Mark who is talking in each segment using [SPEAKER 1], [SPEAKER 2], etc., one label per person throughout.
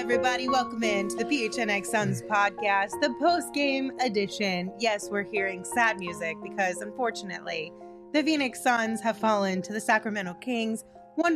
[SPEAKER 1] everybody. Welcome in to the PHNX Suns podcast, the post-game edition. Yes, we're hearing sad music because, unfortunately, the Phoenix Suns have fallen to the Sacramento Kings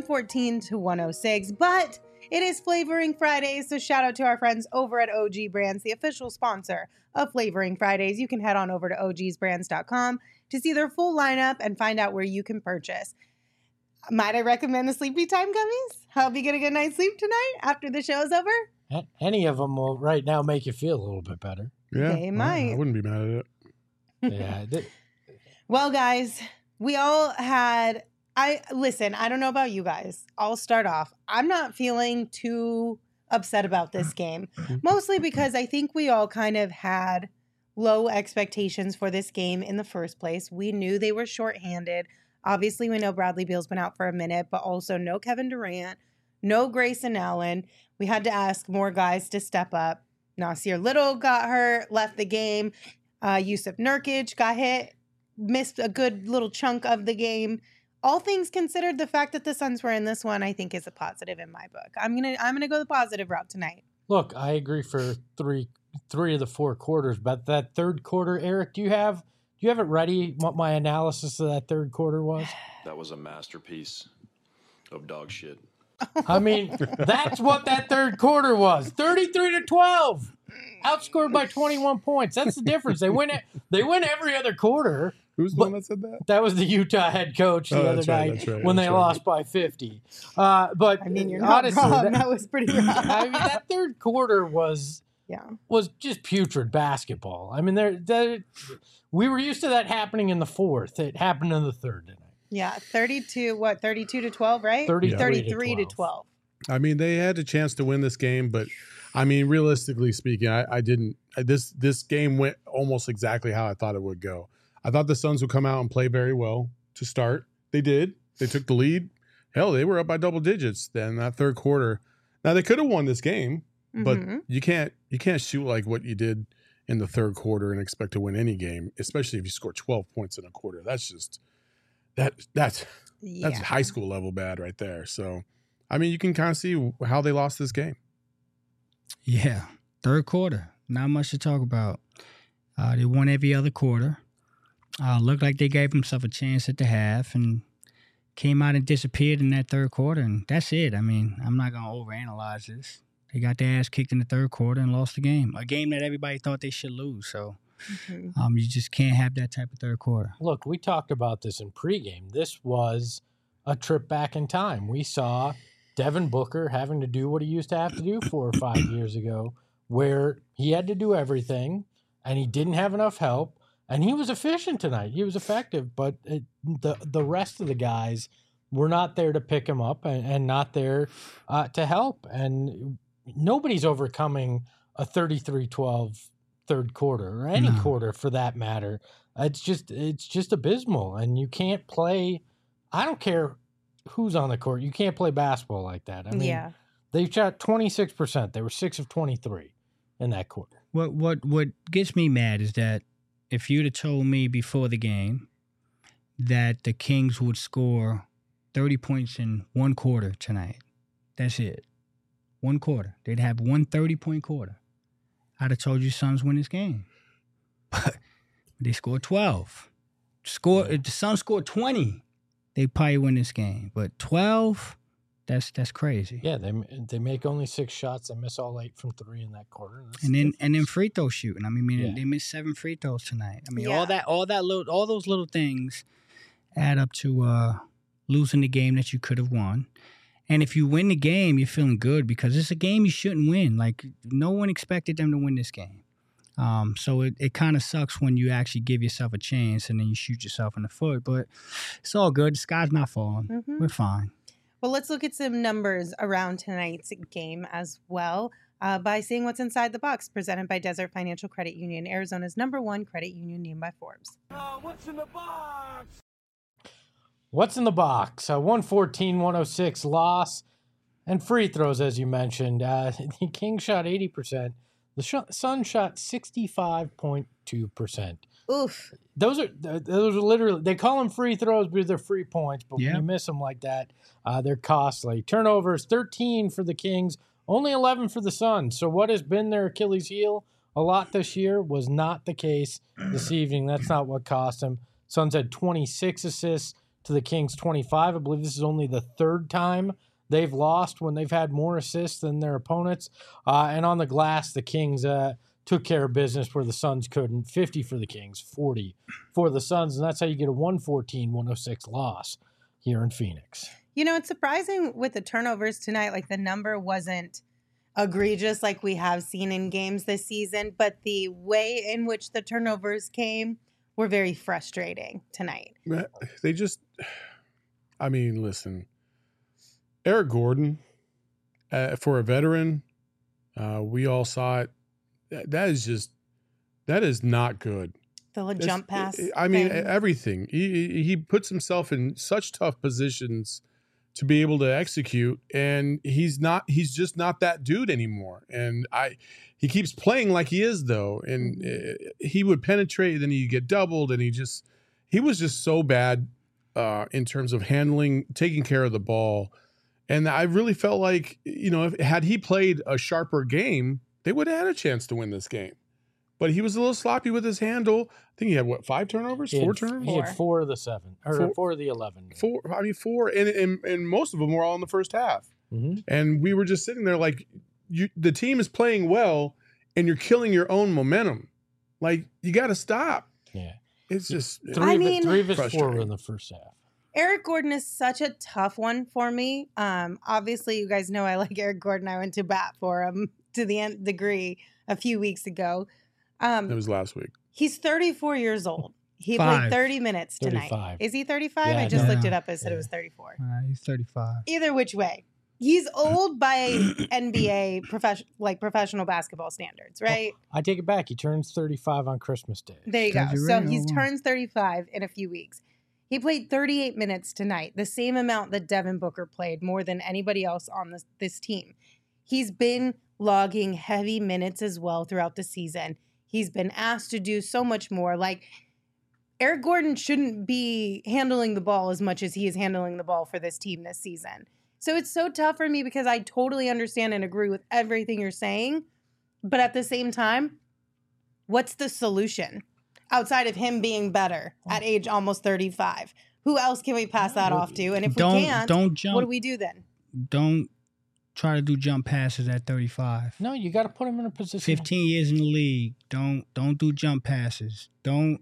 [SPEAKER 1] 114-106. But it is Flavoring Fridays, so shout out to our friends over at OG Brands, the official sponsor of Flavoring Fridays. You can head on over to ogsbrands.com to see their full lineup and find out where you can purchase. Might I recommend the Sleepy Time gummies? Help you get a good night's sleep tonight after the show's over?
[SPEAKER 2] Any of them will right now make you feel a little bit better.
[SPEAKER 3] Yeah,
[SPEAKER 1] They might.
[SPEAKER 3] I wouldn't be mad at it.
[SPEAKER 2] Yeah.
[SPEAKER 1] Well, guys, we all had... I don't know about you guys. I'll start off. I'm not feeling too upset about this game, mostly because I think we all kind of had low expectations for this game in the first place. We knew they were shorthanded. Obviously, we know Bradley Beal's been out for a minute, but also no Kevin Durant, no Grayson Allen. We had to ask more guys to step up. Nasir Little got hurt, left the game. Yusuf Nurkic got hit, missed a good little chunk of the game. All things considered, the fact that the Suns were in this one, I think, is a positive in my book. I'm gonna go the positive route tonight.
[SPEAKER 2] Look, I agree for three of the four quarters, but that third quarter, Eric, do you have it ready? What my analysis of that third quarter was?
[SPEAKER 4] That was a masterpiece of dog shit.
[SPEAKER 2] I mean, that's what that third quarter was. 33-12. Outscored by 21 points. That's the difference. They win every other quarter.
[SPEAKER 3] Who's the one that said that?
[SPEAKER 2] That was the Utah head coach the other night when they lost by 50. But
[SPEAKER 1] I mean, you're not
[SPEAKER 2] honestly,
[SPEAKER 1] wrong. That was pretty rough.
[SPEAKER 2] I mean, that third quarter was just putrid basketball. I mean, we were used to that happening in the fourth. It happened in the third tonight.
[SPEAKER 1] Yeah, 32-12, right? 33 to 12.
[SPEAKER 3] I mean, they had a chance to win this game, but I mean, realistically speaking, I didn't. This game went almost exactly how I thought it would go. I thought the Suns would come out and play very well to start. They did. They took the lead. Hell, they were up by double digits then that third quarter. Now they could have won this game, but you can't shoot like what you did in the third quarter and expect to win any game, especially if you score 12 points in a quarter. That's just that's high school level bad right there. So, I mean, you can kind of see how they lost this game.
[SPEAKER 5] Yeah, third quarter, not much to talk about. They won every other quarter. Looked like they gave themselves a chance at the half and came out and disappeared in that third quarter, and that's it. I mean, I'm not going to overanalyze this. They got their ass kicked in the third quarter and lost the game, a game that everybody thought they should lose. So you just can't have that type of third quarter.
[SPEAKER 2] Look, we talked about this in pregame. This was a trip back in time. We saw Devin Booker having to do what he used to have to do 4 or 5 years ago, where he had to do everything, and he didn't have enough help. And he was efficient tonight. He was effective, but the rest of the guys were not there to pick him up and not there to help. And nobody's overcoming a 33-12 third quarter or any quarter for that matter. It's just abysmal. And you can't play. I don't care who's on the court. You can't play basketball like that. I mean, they shot 26%. They were 6 of 23 in that quarter.
[SPEAKER 5] What gets me mad is that if you'd have told me before the game that the Kings would score 30 points in one quarter tonight, that's it. One quarter. They'd have one 30-point quarter. I'd have told you Suns win this game. But they scored 12. If the Suns scored 20, they'd probably win this game. But 12, that's crazy.
[SPEAKER 2] Yeah, they make only 6 shots. They miss all 8 from 3 in that quarter.
[SPEAKER 5] And then free throw shooting. I mean, they missed 7 free throws tonight. I mean, all those little things add up to losing the game that you could have won. And if you win the game, you're feeling good because it's a game you shouldn't win. Like, no one expected them to win this game. So it kind of sucks when you actually give yourself a chance and then you shoot yourself in the foot. But it's all good. The sky's not falling. We're fine.
[SPEAKER 1] Well, let's look at some numbers around tonight's game as well by seeing what's inside the box, presented by Desert Financial Credit Union, Arizona's #1 credit union named by Forbes.
[SPEAKER 6] What's in the box?
[SPEAKER 2] What's in the box? A 114-106 loss and free throws, as you mentioned. The Kings shot 80%. The Suns shot 65.2%.
[SPEAKER 1] Oof.
[SPEAKER 2] Those are literally, they call them free throws because they're free points, but when you miss them like that, they're costly. Turnovers, 13 for the Kings, Only 11 for the Suns. So what has been their Achilles heel a lot this year was not the case this evening. That's not what cost them. Suns had 26 assists to the Kings 25. I believe this is only the third time they've lost when they've had more assists than their opponents. And on the glass, the Kings took care of business where the Suns couldn't. 50 for the Kings, 40 for the Suns. And that's how you get a 114-106 loss here in Phoenix.
[SPEAKER 1] You know, it's surprising with the turnovers tonight. Like, the number wasn't egregious like we have seen in games this season, but the way in which the turnovers came were very frustrating tonight.
[SPEAKER 3] They just, I mean, listen, Eric Gordon, for a veteran, we all saw it. That is not good.
[SPEAKER 1] The little jump pass.
[SPEAKER 3] I mean,
[SPEAKER 1] thing.
[SPEAKER 3] everything. He puts himself in such tough positions to be able to execute, and he's just not that dude anymore. And he keeps playing like he is, though, and he would penetrate, then he'd get doubled, and he was just so bad in terms of taking care of the ball. And I really felt like, you know, had he played a sharper game, they would have had a chance to win this game. But he was a little sloppy with his handle. I think he had, 5 turnovers? 4 turnovers?
[SPEAKER 2] He had 4 of the 7, or 4 of the 11.
[SPEAKER 3] 4, and most of them were all in the first half.
[SPEAKER 2] Mm-hmm.
[SPEAKER 3] And we were just sitting there like, the team is playing well, and you're killing your own momentum. Like, you got to stop.
[SPEAKER 2] Yeah.
[SPEAKER 3] It's just...
[SPEAKER 2] 3 of his 4 were in the first half.
[SPEAKER 1] Eric Gordon is such a tough one for me. Obviously, you guys know I like Eric Gordon. I went to bat for him to the nth degree a few weeks ago.
[SPEAKER 3] It was last week.
[SPEAKER 1] He's 34 years old. He
[SPEAKER 5] 5.
[SPEAKER 1] played 30 minutes tonight.
[SPEAKER 2] 35.
[SPEAKER 1] Is he 35?
[SPEAKER 2] Yeah,
[SPEAKER 1] I just
[SPEAKER 5] no.
[SPEAKER 1] looked it up. I said it was 34.
[SPEAKER 5] He's 35.
[SPEAKER 1] Either which way. He's old by NBA professional basketball standards, right?
[SPEAKER 2] I take it back. He turns 35 on Christmas Day.
[SPEAKER 1] There you go.
[SPEAKER 5] Because you're
[SPEAKER 1] So
[SPEAKER 5] right.
[SPEAKER 1] he turns 35 in a few weeks. He played 38 minutes tonight, the same amount that Devin Booker played, more than anybody else on this team. He's been logging heavy minutes as well throughout the season. He's been asked to do so much more. Like, Eric Gordon shouldn't be handling the ball as much as he is handling the ball for this team this season. So it's so tough for me because I totally understand and agree with everything you're saying. But at the same time, what's the solution outside of him being better at age almost 35? Who else can we pass that off to? And if we can't,
[SPEAKER 5] don't jump.
[SPEAKER 1] what do we do then?
[SPEAKER 5] Don't try to do jump passes at 35.
[SPEAKER 2] No, you got to put him in a position.
[SPEAKER 5] 15 years in the league. Don't do jump passes. Don't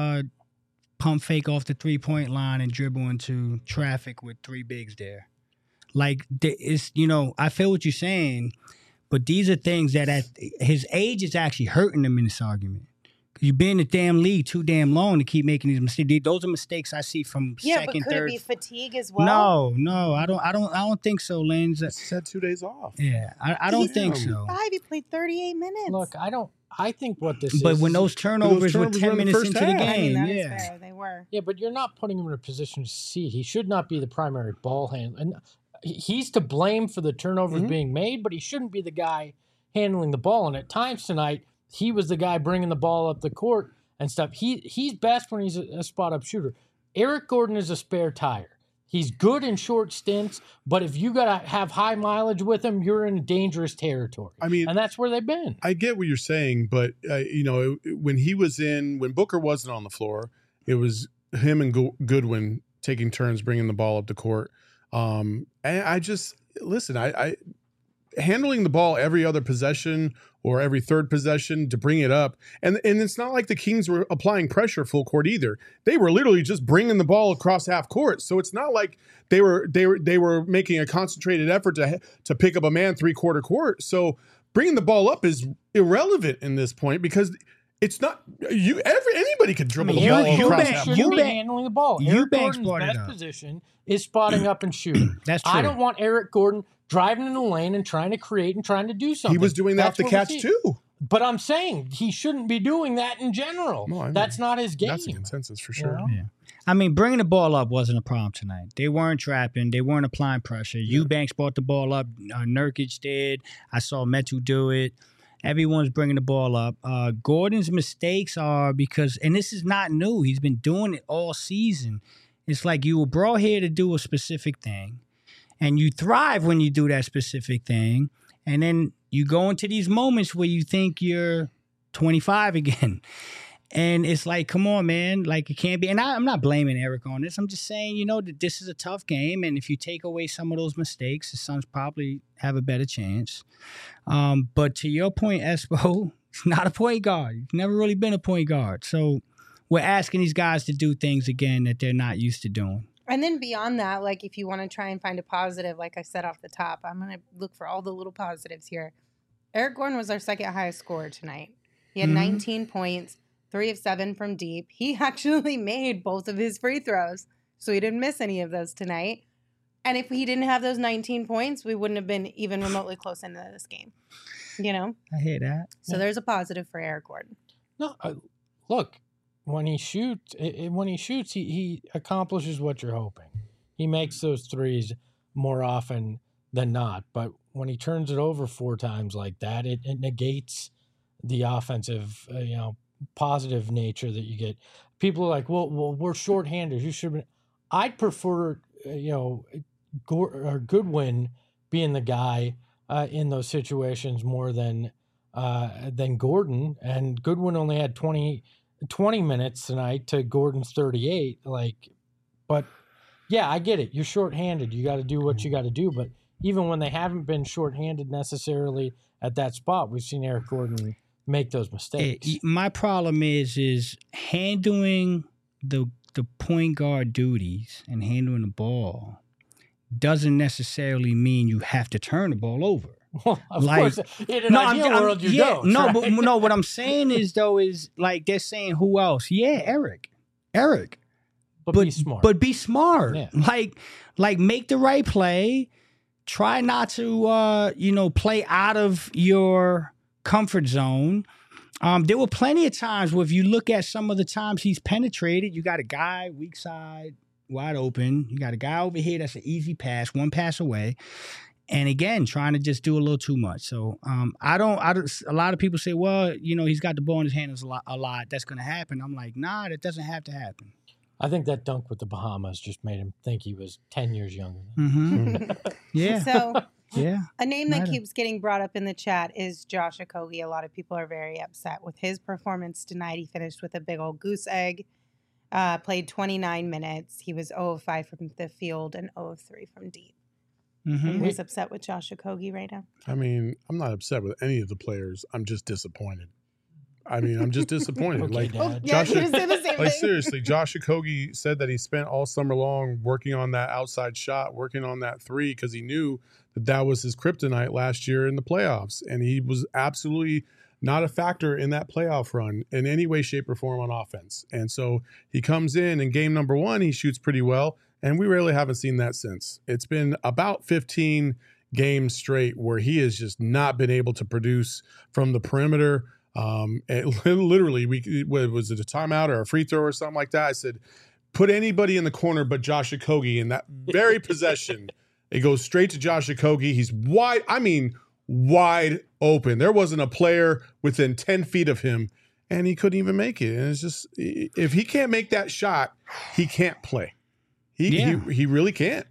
[SPEAKER 5] pump fake off the 3-point line and dribble into traffic with 3 bigs there. Like, it's, you know, I feel what you're saying, but these are things that at his age is actually hurting him in this argument. You've been in the damn league too damn long to keep making these mistakes. Those are mistakes I see from second,
[SPEAKER 1] but could
[SPEAKER 5] third.
[SPEAKER 1] it be fatigue as well?
[SPEAKER 5] No, I don't think so, Lens.
[SPEAKER 3] He's had 2 days off.
[SPEAKER 5] Yeah, I don't think so.
[SPEAKER 1] He played 38 minutes.
[SPEAKER 2] Look, I think what this
[SPEAKER 5] But
[SPEAKER 2] is.
[SPEAKER 5] when those turnovers were
[SPEAKER 3] were
[SPEAKER 5] 10
[SPEAKER 3] in the
[SPEAKER 5] minutes
[SPEAKER 3] first
[SPEAKER 5] into the
[SPEAKER 3] half.
[SPEAKER 1] I mean,
[SPEAKER 5] game,
[SPEAKER 1] that is
[SPEAKER 5] yeah.
[SPEAKER 1] fair. They were.
[SPEAKER 2] Yeah, but you're not putting him in a position to succeed. He should not be the primary ball handler. And he's to blame for the turnovers being made, but he shouldn't be the guy handling the ball. And at times tonight, he was the guy bringing the ball up the court and stuff. He's best when he's a spot-up shooter. Eric Gordon is a spare tire. He's good in short stints, but if you got to have high mileage with him, you're in dangerous territory.
[SPEAKER 3] I mean,
[SPEAKER 2] and that's where they've been.
[SPEAKER 3] I get what you're saying, but you know, when Booker wasn't on the floor, it was him and Goodwin taking turns bringing the ball up the court. And I just listen. I handling the ball every other possession or every third possession to bring it up, and it's not like the Kings were applying pressure full court either. They were literally just bringing the ball across half court. So it's not like they were making a concentrated effort to pick up a man 3/4 court. So bringing the ball up is irrelevant in this point because it's not anybody could dribble the ball across half court.
[SPEAKER 2] Shouldn't be handling the ball. Eric
[SPEAKER 5] Eubanks
[SPEAKER 2] Gordon's
[SPEAKER 5] brought it
[SPEAKER 2] best
[SPEAKER 5] up.
[SPEAKER 2] position is spotting up and shooting.
[SPEAKER 5] That's true.
[SPEAKER 2] I don't want Eric Gordon driving in the lane and trying to create and trying to do something.
[SPEAKER 3] He was doing that off the
[SPEAKER 2] That's what
[SPEAKER 3] catch
[SPEAKER 2] we see.
[SPEAKER 3] too.
[SPEAKER 2] But I'm saying he shouldn't be doing that in general.
[SPEAKER 3] No, I know.
[SPEAKER 2] That's not his game.
[SPEAKER 3] That's the consensus for sure.
[SPEAKER 2] know?
[SPEAKER 5] Yeah. I mean, bringing the ball up wasn't a problem tonight. They weren't trapping. They weren't applying pressure. Eubanks brought the ball up. Nurkic did. I saw Metu do it. Everyone's bringing the ball up. Gordon's mistakes are because, and this is not new. He's been doing it all season. It's like you were brought here to do a specific thing, and you thrive when you do that specific thing. And then you go into these moments where you think you're 25 again. And it's like, come on, man. Like, it can't be. And I'm not blaming Eric on this. I'm just saying, that this is a tough game. And if you take away some of those mistakes, the Suns probably have a better chance. But to your point, Espo, he's not a point guard. He's never really been a point guard. So we're asking these guys to do things again that they're not used to doing.
[SPEAKER 1] And then beyond that, like if you want to try and find a positive, like I said off the top, I'm going to look for all the little positives here. Eric Gordon was our second highest scorer tonight. He had 19 points, 3 of 7 from deep. He actually made both of his free throws, so he didn't miss any of those tonight. And if he didn't have those 19 points, we wouldn't have been even remotely close into this game.
[SPEAKER 5] I hear that.
[SPEAKER 1] So there's a positive for Eric Gordon.
[SPEAKER 2] No, look. When he shoots, he accomplishes what you're hoping. He makes those threes more often than not. But when he turns it over 4 times like that, it negates the offensive, positive nature that you get. People are like, well, we're shorthanded. You should. I'd prefer, Goodwin being the guy in those situations more than Gordon. And Goodwin only had 20 minutes tonight to Gordon's 38. But yeah, I get it. You're shorthanded. You got to do what you got to do. But even when they haven't been shorthanded necessarily at that spot, we've seen Eric Gordon make those mistakes.
[SPEAKER 5] My problem is handling the point guard duties and handling the ball doesn't necessarily mean you have to turn the ball over.
[SPEAKER 2] Well, of course, in an ideal world, you don't.
[SPEAKER 5] No,
[SPEAKER 2] right?
[SPEAKER 5] but no. What I'm saying is like they're saying, who else? Yeah, Eric.
[SPEAKER 2] But be smart.
[SPEAKER 5] But be smart.
[SPEAKER 2] Yeah.
[SPEAKER 5] Like make the right play. Try not to play out of your comfort zone. There were plenty of times where if you look at some of the times he's penetrated, you got a guy weak side wide open. You got a guy over here that's an easy pass, one pass away. And again, trying to just do a little too much. So I don't. A lot of people say, well, he's got the ball in his hands a lot. That's going to happen. I'm like, nah, that doesn't have to happen.
[SPEAKER 2] I think that dunk with the Bahamas just made him think he was 10 years younger.
[SPEAKER 5] Mm-hmm. Yeah.
[SPEAKER 1] So
[SPEAKER 5] yeah.
[SPEAKER 1] A name that keeps getting brought up in the chat is Josh Okogie. A lot of people are very upset with his performance tonight. He finished with a big old goose egg. Played 29 minutes. He was 0 of 5 from the field and 0 of 3 from deep.
[SPEAKER 5] Mm-hmm.
[SPEAKER 1] Who's upset with Josh Okogie right now?
[SPEAKER 3] I mean, I'm not upset with any of the players. I'm just disappointed. I'm just disappointed.
[SPEAKER 2] Okay,
[SPEAKER 3] like
[SPEAKER 2] Dad.
[SPEAKER 1] Yeah,
[SPEAKER 3] Josh,
[SPEAKER 1] he was saying the same
[SPEAKER 3] like
[SPEAKER 1] thing.
[SPEAKER 3] seriously, Josh Okogie said that he spent all summer long working on that outside shot, working on that 3 because he knew that was his kryptonite last year in the playoffs, and he was absolutely not a factor in that playoff run in any way, shape, or form on offense. And so he comes in game number 1, he shoots pretty well. And we really haven't seen that since. It's been about 15 games straight where he has just not been able to produce from the perimeter. Literally, was it a timeout or a free throw or something like that? I said, put anybody in the corner but Josh Okogie. In that very possession, it goes straight to Josh Okogie. He's wide open. There wasn't a player within 10 feet of him, and he couldn't even make it. And it's just, if he can't make that shot, he can't play. He really can't.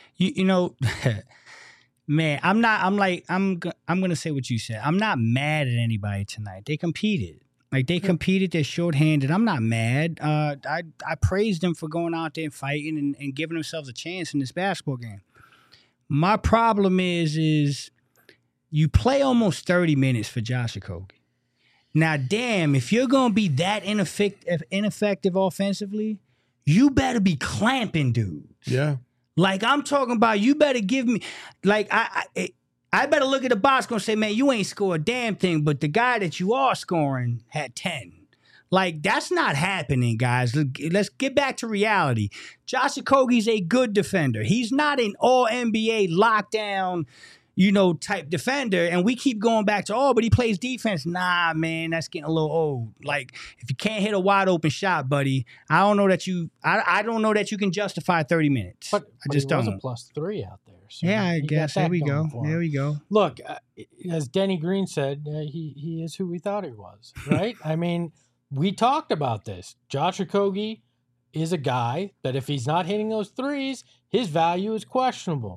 [SPEAKER 5] Man, I'm going to say what you said. I'm not mad at anybody tonight. They competed. They're shorthanded. I'm not mad. I praised them for going out there and fighting and giving themselves a chance in this basketball game. My problem is you play almost 30 minutes for Josh Okogie. Now, damn, if you're going to be that ineffective offensively, you better be clamping dudes.
[SPEAKER 3] Yeah.
[SPEAKER 5] Like, I'm talking about, you better give me, like, I better look at the box and say, man, you ain't scored a damn thing, but the guy that you are scoring had 10. Like, that's not happening, guys. Let's get back to reality. Josh Okogie's a good defender. He's not an all-NBA lockdown, type defender. And we keep going back to, but he plays defense. Nah, man, that's getting a little old. Like, if you can't hit a wide open shot, buddy, I don't know that you can justify 30 minutes.
[SPEAKER 2] But
[SPEAKER 5] I just don't.
[SPEAKER 2] He was a +3 out there. So
[SPEAKER 5] yeah, I guess. There we go.
[SPEAKER 2] There we go. Look, as Denny Green said, he is who we thought he was, right? I mean, we talked about this. Josh Okogie is a guy that if he's not hitting those threes, his value is questionable.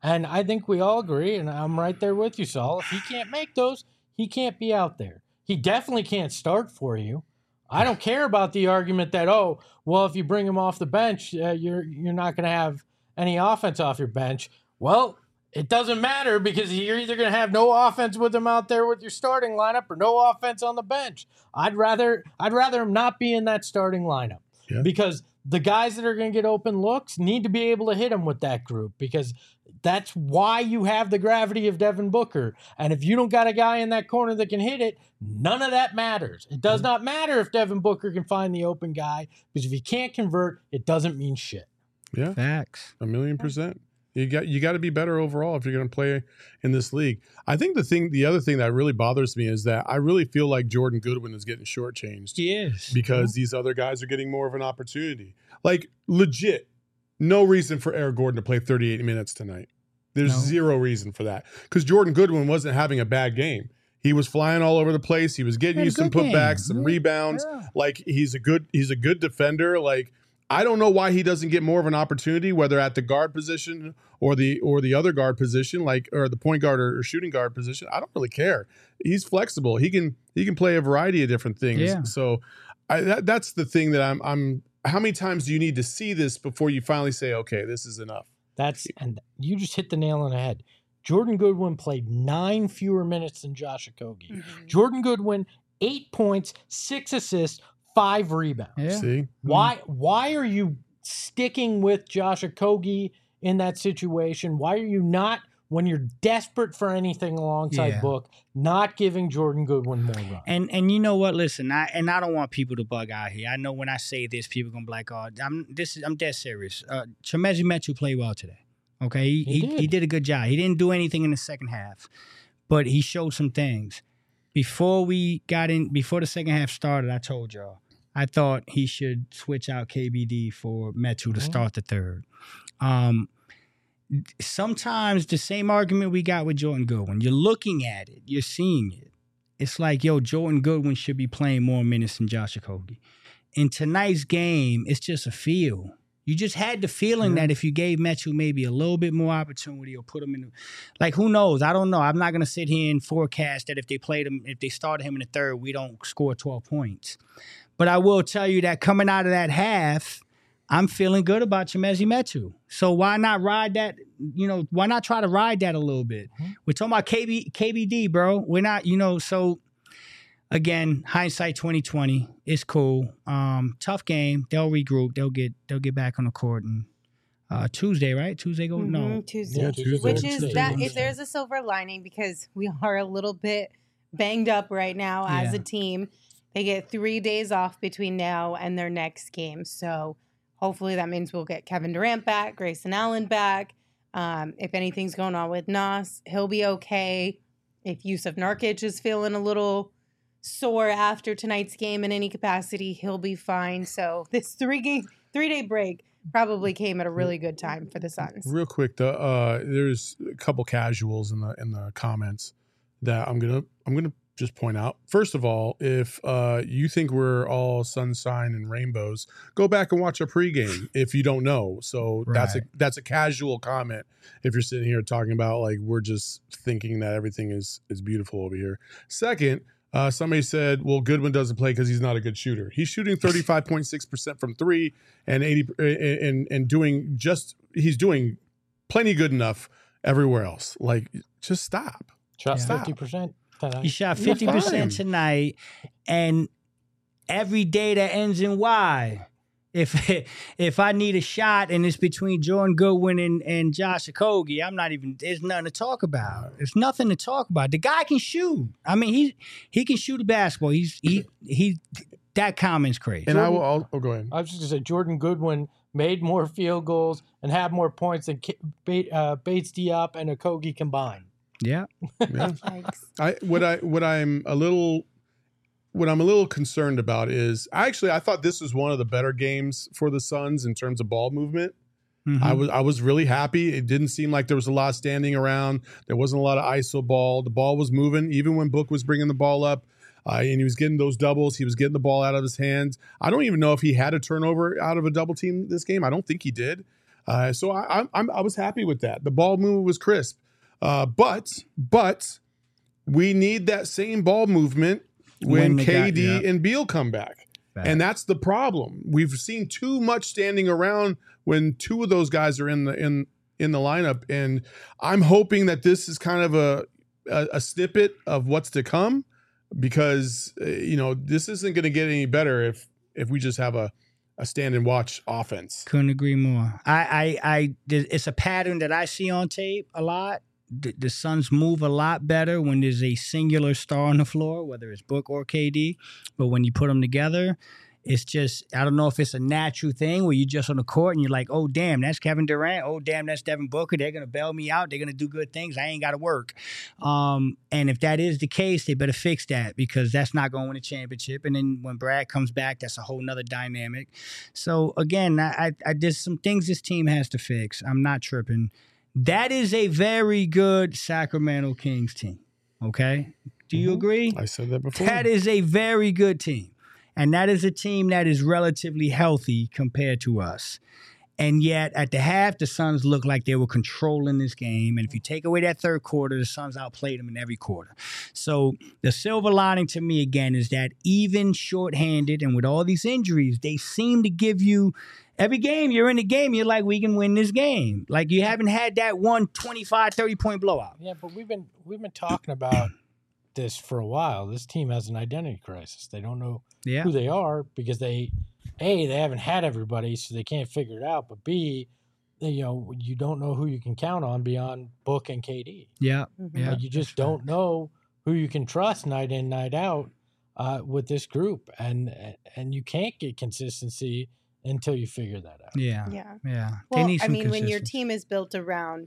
[SPEAKER 2] And I think we all agree, and I'm right there with you, Saul. If he can't make those, he can't be out there. He definitely can't start for you. I don't care about the argument that, oh, well, if you bring him off the bench, you're not going to have any offense off your bench. Well, it doesn't matter because you're either going to have no offense with him out there with your starting lineup or no offense on the bench. I'd rather him not be in that starting lineup because the guys that are going to get open looks need to be able to hit him with that group because that's why you have the gravity of Devin Booker. And if you don't got a guy in that corner that can hit it, none of that matters. It does not matter if Devin Booker can find the open guy because if he can't convert, it doesn't mean shit.
[SPEAKER 3] Yeah.
[SPEAKER 5] Facts.
[SPEAKER 3] 1,000,000%. You got to be better overall if you're going to play in this league. I think the other thing that really bothers me is that I really feel like Jordan Goodwin is getting shortchanged.
[SPEAKER 5] He is.
[SPEAKER 3] Because these other guys are getting more of an opportunity. Like, legit, no reason for Eric Gordon to play 38 minutes tonight. There's zero reason for that. Because Jordan Goodwin wasn't having a bad game. He was flying all over the place. He was getting you some putbacks, some rebounds. Yeah. Like, he's a good defender. Like, I don't know why he doesn't get more of an opportunity, whether at the guard position or the other guard position, like or the point guard or shooting guard position. I don't really care. He's flexible. He can play a variety of different things.
[SPEAKER 5] Yeah.
[SPEAKER 3] So that's the thing that I'm. How many times do you need to see this before you finally say, okay, this is enough?
[SPEAKER 2] And you just hit the nail on the head. Jordan Goodwin played 9 fewer minutes than Josh Okogie. Mm-hmm. Jordan Goodwin, 8 points, 6 assists, 5 rebounds.
[SPEAKER 3] Yeah. See?
[SPEAKER 2] Why are you sticking with Josh Okogie in that situation? Why are you not, when you're desperate for anything alongside Book, not giving Jordan Goodwin more run?
[SPEAKER 5] And you know what? Listen, I don't want people to bug out here. I know when I say this, people gonna be like, "Oh, I'm dead serious." Chimezie Metu played well today. Okay, he did a good job. He didn't do anything in the second half, but he showed some things. Before the second half started, I told y'all I thought he should switch out KBD for Metu to start the third. Sometimes the same argument we got with Jordan Goodwin. You're looking at it. You're seeing it. It's like, Jordan Goodwin should be playing more minutes than Josh Okogie. In tonight's game, it's just a feel. You just had the feeling that if you gave Metu maybe a little bit more opportunity or put him in, like, who knows? I don't know. I'm not going to sit here and forecast that if they started him in the third, we don't score 12 points. But I will tell you that coming out of that half, I'm feeling good about Chimezie Metu. So why not ride that? Why not try to ride that a little bit? Mm-hmm. We're talking about KBD, bro. We're not, so again, hindsight 2020. It's cool. Tough game. They'll regroup. They'll get back on the court and Tuesday, right? Tuesday go? No.
[SPEAKER 1] Tuesday.
[SPEAKER 3] Yeah, Tuesday.
[SPEAKER 1] Which is that if there's a silver lining because we are a little bit banged up right now as a team. They get 3 days off between now and their next game. So hopefully that means we'll get Kevin Durant back, Grayson Allen back. If anything's going on with Nas, he'll be okay. If Yusuf Nurkic is feeling a little sore after tonight's game in any capacity, he'll be fine. So this 3-day break probably came at a really good time for the Suns.
[SPEAKER 3] Real quick, there's a couple casuals in the comments that I'm gonna just point out. First of all, if you think we're all sunshine and rainbows, go back and watch a pregame if you don't know. So that's a casual comment if you're sitting here talking about like we're just thinking that everything is beautiful over here. Second, somebody said, well, Goodwin doesn't play because he's not a good shooter. He's shooting 35.6% from 3 and 80 and he's doing plenty good enough everywhere else. Like, just stop.
[SPEAKER 2] Shot 50%.
[SPEAKER 5] He shot 50% tonight, and every day that ends in Y. If I need a shot and it's between Jordan Goodwin and Josh Okogie, there's nothing to talk about. There's nothing to talk about. The guy can shoot. I mean, he can shoot a basketball. That comment's crazy.
[SPEAKER 3] And go ahead.
[SPEAKER 2] I was just going to say, Jordan Goodwin made more field goals and had more points than Bates Diop and Okogie combined.
[SPEAKER 5] Yeah.
[SPEAKER 3] What I'm a little concerned about is I thought this was one of the better games for the Suns in terms of ball movement. Mm-hmm. I was really happy. It didn't seem like there was a lot standing around. There wasn't a lot of ISO ball. The ball was moving, even when Book was bringing the ball up. And he was getting those doubles. He was getting the ball out of his hands. I don't even know if he had a turnover out of a double team this game. I don't think he did. So I was happy with that. The ball movement was crisp. But we need that same ball movement when KD and Beal come back.
[SPEAKER 5] Fact.
[SPEAKER 3] And that's the problem. We've seen too much standing around when two of those guys are in the lineup. And I'm hoping that this is kind of a snippet of what's to come, because this isn't going to get any better if we just have a stand and watch offense.
[SPEAKER 5] Couldn't agree more. It's a pattern that I see on tape a lot. The Suns move a lot better when there's a singular star on the floor, whether it's Book or KD. But when you put them together, it's just, I don't know if it's a natural thing where you're just on the court and you're like, oh, damn, that's Kevin Durant. Oh, damn, that's Devin Booker. They're going to bail me out. They're going to do good things. I ain't got to work. And if that is the case, they better fix that, because that's not going to win a championship. And then when Brad comes back, that's a whole nother dynamic. So, again, there's some things this team has to fix. I'm not tripping. That is a very good Sacramento Kings team, okay? Do you agree?
[SPEAKER 3] I said that before.
[SPEAKER 5] That is a very good team. And that is a team that is relatively healthy compared to us. And yet, at the half, the Suns looked like they were controlling this game. And if you take away that third quarter, the Suns outplayed them in every quarter. So the silver lining to me, again, is that even shorthanded and with all these injuries, they seem to give you every game you're in the game, you're like, we can win this game. Like, you haven't had that 25, 30-point blowout.
[SPEAKER 2] Yeah, but we've been talking about this for a while. This team has an identity crisis. They don't know who they are, because they haven't had everybody, so they can't figure it out. But B, you don't know who you can count on beyond Book and KD.
[SPEAKER 5] Yeah,
[SPEAKER 2] Like, you just don't know who you can trust night in, night out with this group, and you can't get consistency until you figure that out.
[SPEAKER 5] Yeah.
[SPEAKER 1] Well, I mean, when your team is built around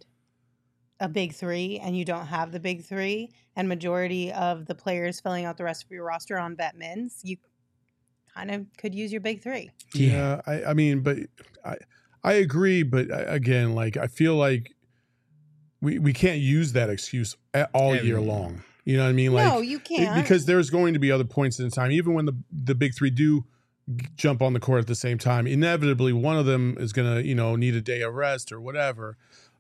[SPEAKER 1] a big three and you don't have the big three, and majority of the players filling out the rest of your roster on vet mins, you kind of could use your big three.
[SPEAKER 3] Yeah, I mean, but I agree. But again, like, I feel like we can't use that excuse all year long. You know what I mean? Like,
[SPEAKER 1] no, you can't.
[SPEAKER 3] Because there's going to be other points in time, even when the big three do jump on the court at the same time. Inevitably, one of them is going to, need a day of rest or whatever.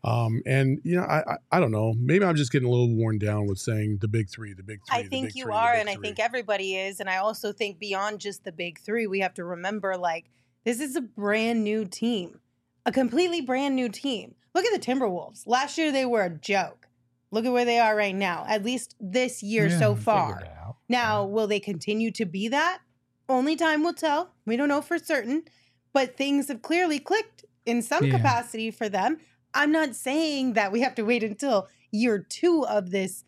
[SPEAKER 3] And I don't know. Maybe I'm just getting a little worn down with saying the big three.
[SPEAKER 1] I think you are, and I think everybody is. And I also think beyond just the big three, we have to remember, like, this is a brand new team, a completely brand new team. Look at the Timberwolves. Last year, they were a joke. Look at where they are right now, at least this year so far. Now, will they continue to be that? Only time will tell. We don't know for certain, but things have clearly clicked in some capacity for them. I'm not saying that we have to wait until year 2 of this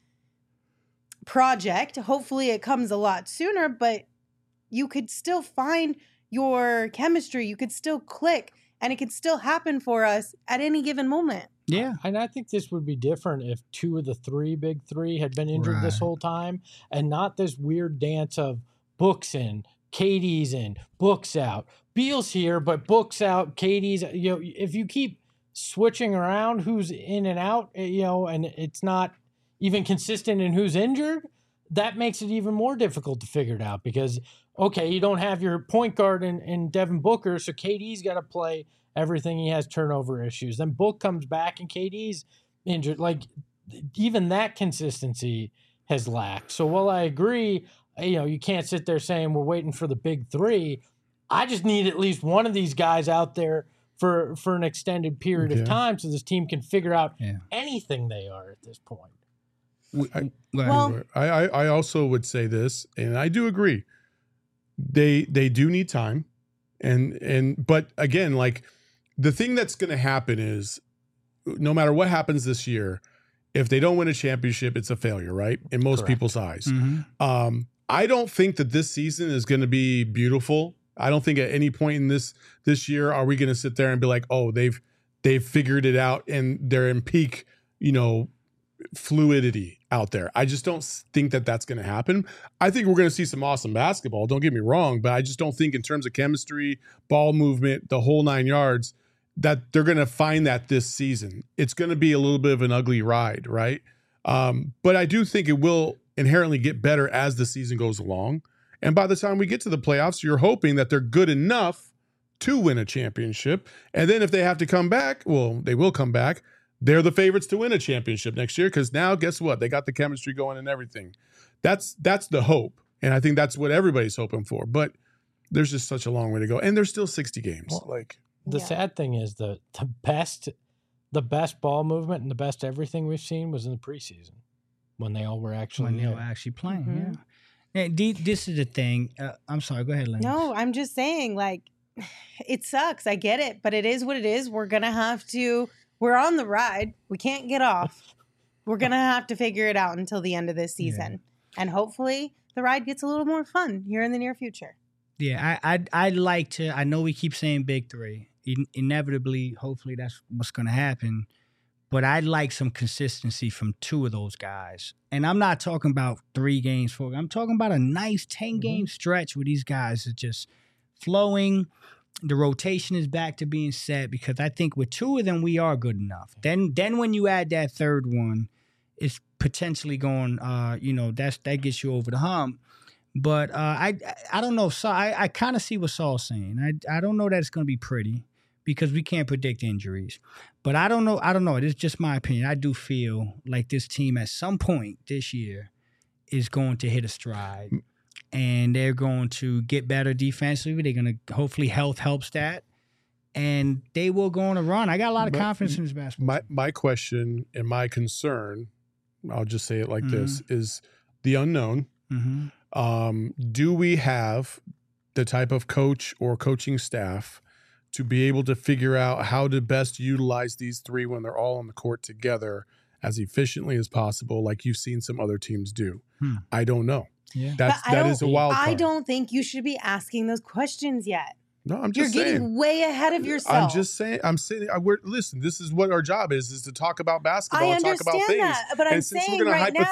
[SPEAKER 1] project. Hopefully it comes a lot sooner, but you could still find your chemistry. You could still click, and it could still happen for us at any given moment.
[SPEAKER 5] Yeah.
[SPEAKER 2] And I think this would be different if 2 of the 3 big three had been injured this whole time, and not this weird dance of Book's in, KD's in, Book's out, Beal's here, but Book's out, KD's, if you keep switching around who's in and out, and it's not even consistent in who's injured, that makes it even more difficult to figure it out, because, okay, you don't have your point guard in Devin Booker, so KD's got to play everything. He has turnover issues. Then Book comes back and KD's injured. Like, even that consistency has lacked. So while I agree, you can't sit there saying we're waiting for the big three, I just need at least one of these guys out there for an extended period of time, so this team can figure out anything they are at this point.
[SPEAKER 3] I also would say this, and I do agree. They do need time, but again, like, the thing that's going to happen is, no matter what happens this year, if they don't win a championship, it's a failure, right? In most people's eyes. Mm-hmm. I don't think that this season is going to be beautiful. I don't think at any point in this year are we going to sit there and be like, oh, they've figured it out and they're in peak, fluidity out there. I just don't think that that's going to happen. I think we're going to see some awesome basketball. Don't get me wrong, but I just don't think in terms of chemistry, ball movement, the whole 9 yards, that they're going to find that this season. It's going to be a little bit of an ugly ride, right? But I do think it will inherently get better as the season goes along. And by the time we get to the playoffs, you're hoping that they're good enough to win a championship. And then if they have to come back, well, they will come back. They're the favorites to win a championship next year because now, guess what? They got the chemistry going and everything. That's the hope. And I think that's what everybody's hoping for. But there's just such a long way to go. And there's still 60 games.
[SPEAKER 2] Well, the sad thing is the best ball movement and the best everything we've seen was in the preseason when they all were actually
[SPEAKER 5] playing.
[SPEAKER 1] Mhm.
[SPEAKER 5] Yeah. This is the thing. I'm sorry. Go ahead, Lynn.
[SPEAKER 1] No, I'm just saying, like, it sucks. I get it, but it is what it is. We're going to have to, we're on the ride. We can't get off. We're going to have to figure it out until the end of this season. And hopefully the ride gets a little more fun here in the near future.
[SPEAKER 5] Yeah, I'd like to. I know we keep saying big three. Inevitably, hopefully that's what's going to happen. But I'd like some consistency from two of those guys. And I'm not talking about 3 games, 4. I'm talking about a nice 10-game stretch where these guys are just flowing. The rotation is back to being set because I think with 2 of them, we are good enough. Then when you add that third one, it's potentially going, that gets you over the hump. But I don't know. So I kind of see what Saul's saying. I don't know that it's going to be pretty because we can't predict injuries. But I don't know. It's just my opinion. I do feel like this team at some point this year is going to hit a stride. And they're going to get better defensively. They're going to hopefully health helps that. And they will go on a run. I got a lot of confidence in this basketball.
[SPEAKER 3] My question and my concern, I'll just say it like this, is the unknown. Do we have the type of coach or coaching staff to be able to figure out how to best utilize these 3 when they're all on the court together as efficiently as possible, like you've seen some other teams do? I don't know.
[SPEAKER 5] Yeah.
[SPEAKER 3] That is a wild card.
[SPEAKER 1] I don't think you should be asking those questions yet.
[SPEAKER 3] No, I'm just
[SPEAKER 1] You're
[SPEAKER 3] saying.
[SPEAKER 1] getting way ahead of yourself.
[SPEAKER 3] I'm just saying. I'm sitting. Listen, this is what our job is to talk about basketball
[SPEAKER 1] I
[SPEAKER 3] and talk about
[SPEAKER 1] understand
[SPEAKER 3] things.
[SPEAKER 1] that, but I'm
[SPEAKER 3] and since
[SPEAKER 1] saying
[SPEAKER 3] we're going
[SPEAKER 1] right
[SPEAKER 3] to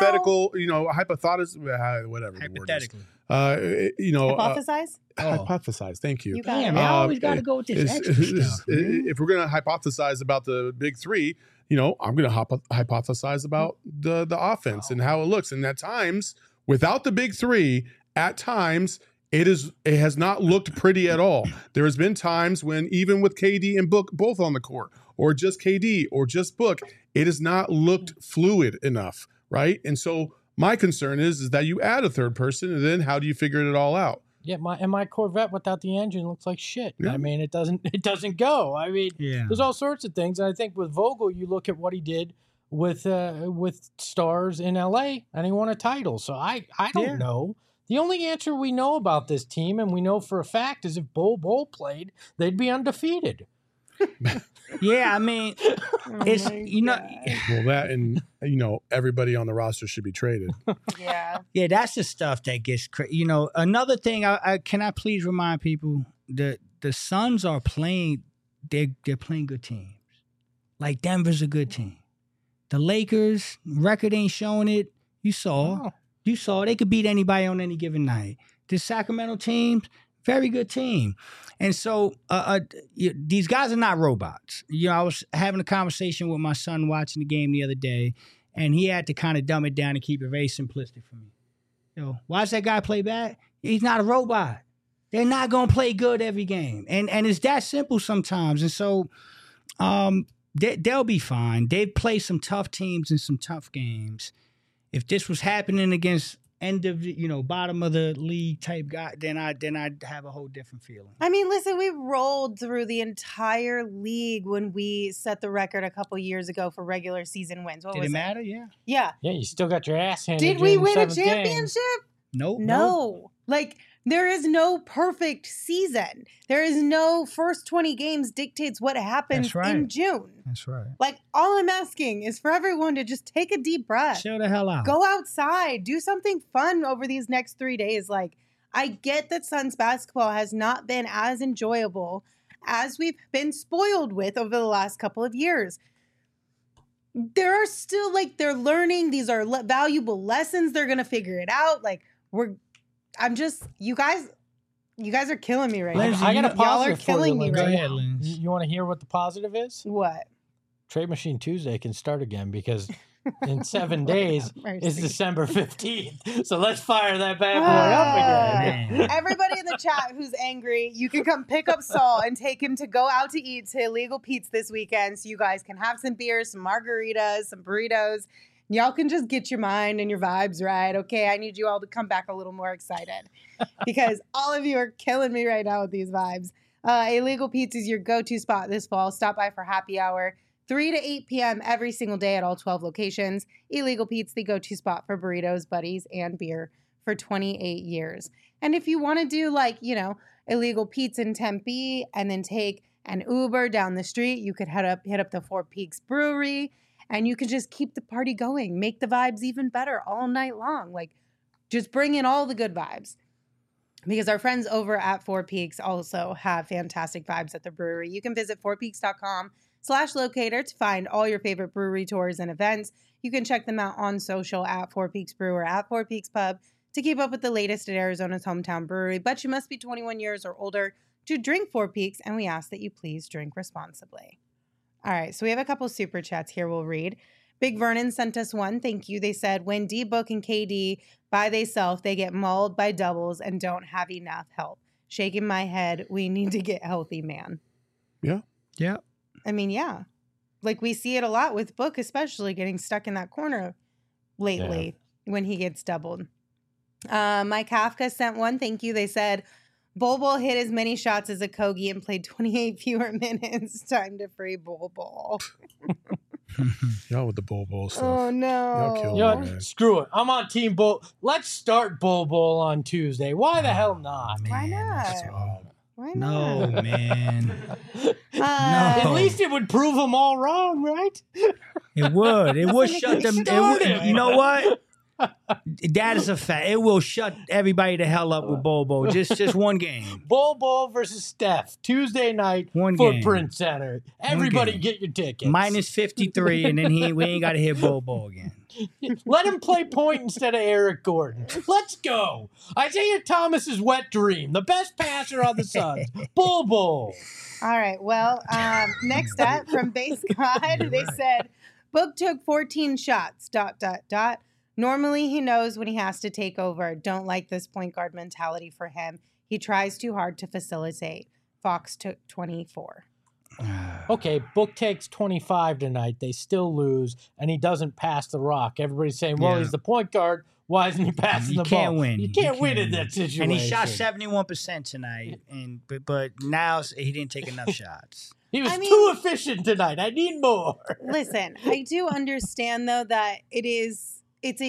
[SPEAKER 3] whatever the word is.
[SPEAKER 5] Hypothetically.
[SPEAKER 1] Hypothesize?
[SPEAKER 3] Hypothesize. Thank you.
[SPEAKER 1] You got
[SPEAKER 5] Damn,
[SPEAKER 1] it.
[SPEAKER 5] I always got to go with this extra stuff.
[SPEAKER 3] If we're going to hypothesize about the big 3, I'm going to hypothesize about the offense and how it looks. And at times, without the big 3, at times it has not looked pretty at all. There has been times when even with KD and Book both on the court, or just KD or just Book, it has not looked fluid enough, right? And so my concern is that you add a third person, and then how do you figure it all out?
[SPEAKER 2] Yeah, my Corvette without the engine looks like shit.
[SPEAKER 3] Yeah.
[SPEAKER 2] I mean, it doesn't go. I mean,
[SPEAKER 5] Yeah.
[SPEAKER 2] there's all sorts of things. And I think with Vogel, you look at what he did with Stars in LA, and he won a title. So I don't know. The only answer we know about this team, and we know for a fact, is if Bol played, they'd be undefeated.
[SPEAKER 5] Yeah, I mean, it's
[SPEAKER 3] Well, that and everybody on the roster should be traded.
[SPEAKER 5] Yeah, that's the stuff that gets crazy. Another thing, can I please remind people that the Suns are playing, they're playing good teams. Like Denver's a good team. The Lakers, record ain't showing it. You saw they could beat anybody on any given night. The Sacramento team, very good team. And so these guys are not robots. I was having a conversation with my son watching the game the other day, and he had to kind of dumb it down and keep it very simplistic for me. Watch that guy play bad. He's not a robot. They're not going to play good every game. And it's that simple sometimes. And so they'll be fine. They've played some tough teams in some tough games. If this was happening against bottom of the league type guy, then I'd have a whole different feeling.
[SPEAKER 1] I mean, listen, we rolled through the entire league when we set the record a couple years ago for regular season wins. What
[SPEAKER 5] Did
[SPEAKER 1] was
[SPEAKER 5] it matter? Yeah.
[SPEAKER 1] Yeah.
[SPEAKER 2] Yeah, you still got your ass handed.
[SPEAKER 1] Did we
[SPEAKER 2] in the
[SPEAKER 1] win a
[SPEAKER 2] 7th game.
[SPEAKER 1] championship?
[SPEAKER 5] Nope.
[SPEAKER 1] No. Like, there is no perfect season. There is no first 20 games dictates what happens
[SPEAKER 5] That's right.
[SPEAKER 1] in June.
[SPEAKER 5] That's right.
[SPEAKER 1] Like, all I'm asking is for everyone to just take a deep breath.
[SPEAKER 5] Chill the hell out.
[SPEAKER 1] Go outside. Do something fun over these next 3 days. Like, I get that Suns basketball has not been as enjoyable as we've been spoiled with over the last couple of years. There are still, they're learning. These are valuable lessons. They're going to figure it out. You guys are killing me right
[SPEAKER 5] Lindsay,
[SPEAKER 1] now.
[SPEAKER 2] I got a
[SPEAKER 1] Y'all are
[SPEAKER 2] positive for you,
[SPEAKER 1] killing me
[SPEAKER 2] Lindsay.
[SPEAKER 5] Go
[SPEAKER 1] right
[SPEAKER 5] ahead,
[SPEAKER 1] now.
[SPEAKER 5] Lindsay.
[SPEAKER 2] You want to hear what the positive is?
[SPEAKER 1] What?
[SPEAKER 2] Trade Machine Tuesday can start again because in 7 days
[SPEAKER 1] Mercy.
[SPEAKER 2] is December 15th. So let's fire that bad boy up again.
[SPEAKER 5] Man.
[SPEAKER 1] Everybody in the chat who's angry, you can come pick up Saul and take him to go out to eat to Illegal Pete's this weekend so you guys can have some beers, some margaritas, some burritos. Y'all can just get your mind and your vibes right, okay? I need you all to come back a little more excited because all of you are killing me right now with these vibes. Illegal Pete's is your go-to spot this fall. Stop by for happy hour, 3 to 8 p.m. every single day at all 12 locations. Illegal Pete's, the go-to spot for burritos, buddies, and beer for 28 years. And if you want to do Illegal Pete's in Tempe and then take an Uber down the street, you could hit up the Four Peaks Brewery and you could just keep the party going, make the vibes even better all night long. Like, just bring in all the good vibes. Because our friends over at Four Peaks also have fantastic vibes at the brewery. You can visit fourpeaks.com/locator to find all your favorite brewery tours and events. You can check them out on social at Four Peaks Brew or at Four Peaks Pub to keep up with the latest at Arizona's hometown brewery. But you must be 21 years or older to drink Four Peaks, and we ask that you please drink responsibly. All right, so we have a couple super chats here we'll read. Big Vernon sent us one. Thank you. They said, when D-Book and KD by theyself, they get mauled by doubles and don't have enough help. Shaking my head. We need to get healthy, man.
[SPEAKER 3] Yeah.
[SPEAKER 5] Yeah.
[SPEAKER 1] I mean, yeah. Like, we see it a lot with Book, especially getting stuck in that corner lately when he gets doubled. Mike Kafka sent one. Thank you. They said, Bol Bol hit as many shots as a Kogi and played 28 fewer minutes. Time to free Bol Bol.
[SPEAKER 3] Y'all with the Bol Bol stuff.
[SPEAKER 1] Oh, no.
[SPEAKER 3] Y'all killed
[SPEAKER 2] You know
[SPEAKER 3] me,
[SPEAKER 2] what?
[SPEAKER 3] man.
[SPEAKER 2] Screw it. I'm on Team Bull. Let's start Bull Bull on Tuesday. Why the hell not?
[SPEAKER 1] Why
[SPEAKER 5] Man, that's
[SPEAKER 1] not?
[SPEAKER 5] wild.
[SPEAKER 1] Why
[SPEAKER 5] No,
[SPEAKER 1] not?
[SPEAKER 5] man.
[SPEAKER 2] At
[SPEAKER 5] No.
[SPEAKER 2] least it would prove them all wrong, right?
[SPEAKER 5] It would. It would
[SPEAKER 1] That's
[SPEAKER 5] shut them.
[SPEAKER 2] started.
[SPEAKER 5] You know what? That is a fact. It will shut everybody the hell up with Bobo. Just one game.
[SPEAKER 2] Bull Bull versus Steph, Tuesday night,
[SPEAKER 5] One game.
[SPEAKER 2] Footprint Center. Everybody
[SPEAKER 5] game.
[SPEAKER 2] get your tickets.
[SPEAKER 5] Minus 53, and then we ain't got to hit Bobo again.
[SPEAKER 2] Let him play point instead of Eric Gordon. Let's go. Isaiah Thomas's wet dream, the best passer on the Suns. Bull Bull.
[SPEAKER 1] All right. Well, next up from Base God, they said, Book took 14 shots, ... Normally, he knows when he has to take over. Don't like this point guard mentality for him. He tries too hard to facilitate. Fox took 24.
[SPEAKER 2] Okay, Book takes 25 tonight. They still lose, and he doesn't pass the rock. Everybody's saying, well,
[SPEAKER 5] Yeah.
[SPEAKER 2] he's the point guard. Why isn't he passing
[SPEAKER 5] You
[SPEAKER 2] the
[SPEAKER 5] can't
[SPEAKER 2] ball?
[SPEAKER 5] win.
[SPEAKER 2] You can't win in that situation.
[SPEAKER 5] And he shot 71% tonight, but now he didn't take enough shots.
[SPEAKER 2] He was
[SPEAKER 1] I mean-
[SPEAKER 2] too efficient tonight. I need more.
[SPEAKER 1] Listen, I do understand, though, that it's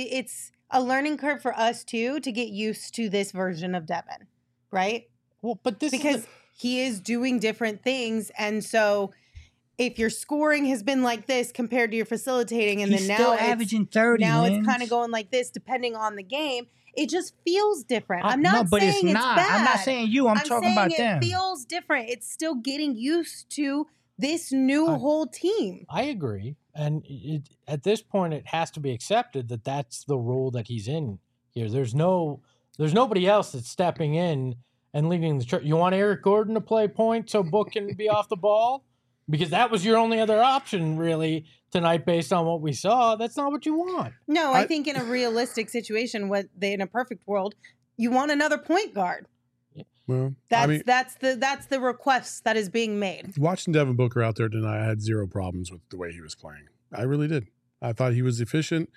[SPEAKER 1] a learning curve for us, too, to get used to this version of Devin, right?
[SPEAKER 2] Well, but this
[SPEAKER 1] Because
[SPEAKER 2] is
[SPEAKER 1] he is doing different things. And so if your scoring has been like this compared to your facilitating, and
[SPEAKER 5] He's
[SPEAKER 1] then
[SPEAKER 5] still
[SPEAKER 1] now
[SPEAKER 5] averaging 30.
[SPEAKER 1] now
[SPEAKER 5] Lynch.
[SPEAKER 1] it's kind of going like this depending on the game, it just feels different.
[SPEAKER 5] I-
[SPEAKER 1] I'm not
[SPEAKER 5] no, but
[SPEAKER 1] saying
[SPEAKER 5] it's
[SPEAKER 1] it's
[SPEAKER 5] not.
[SPEAKER 1] bad.
[SPEAKER 5] I'm not saying you. I'm talking
[SPEAKER 1] saying
[SPEAKER 5] about
[SPEAKER 1] it
[SPEAKER 5] them.
[SPEAKER 1] feels different. It's still getting used to this new whole team.
[SPEAKER 2] I agree. And at this point, it has to be accepted that that's the role that he's in here. There's nobody else that's stepping in and leading the church. You want Eric Gordon to play point so Book can be off the ball? Because that was your only other option, really, tonight, based on what we saw. That's not what you want.
[SPEAKER 1] No, I think in a realistic situation, in a perfect world, you want another point guard.
[SPEAKER 3] Well,
[SPEAKER 1] That's the request that is being made.
[SPEAKER 3] watching Devin Booker out there tonight, I had zero problems with the way he was playing. I really did. I thought he was efficient.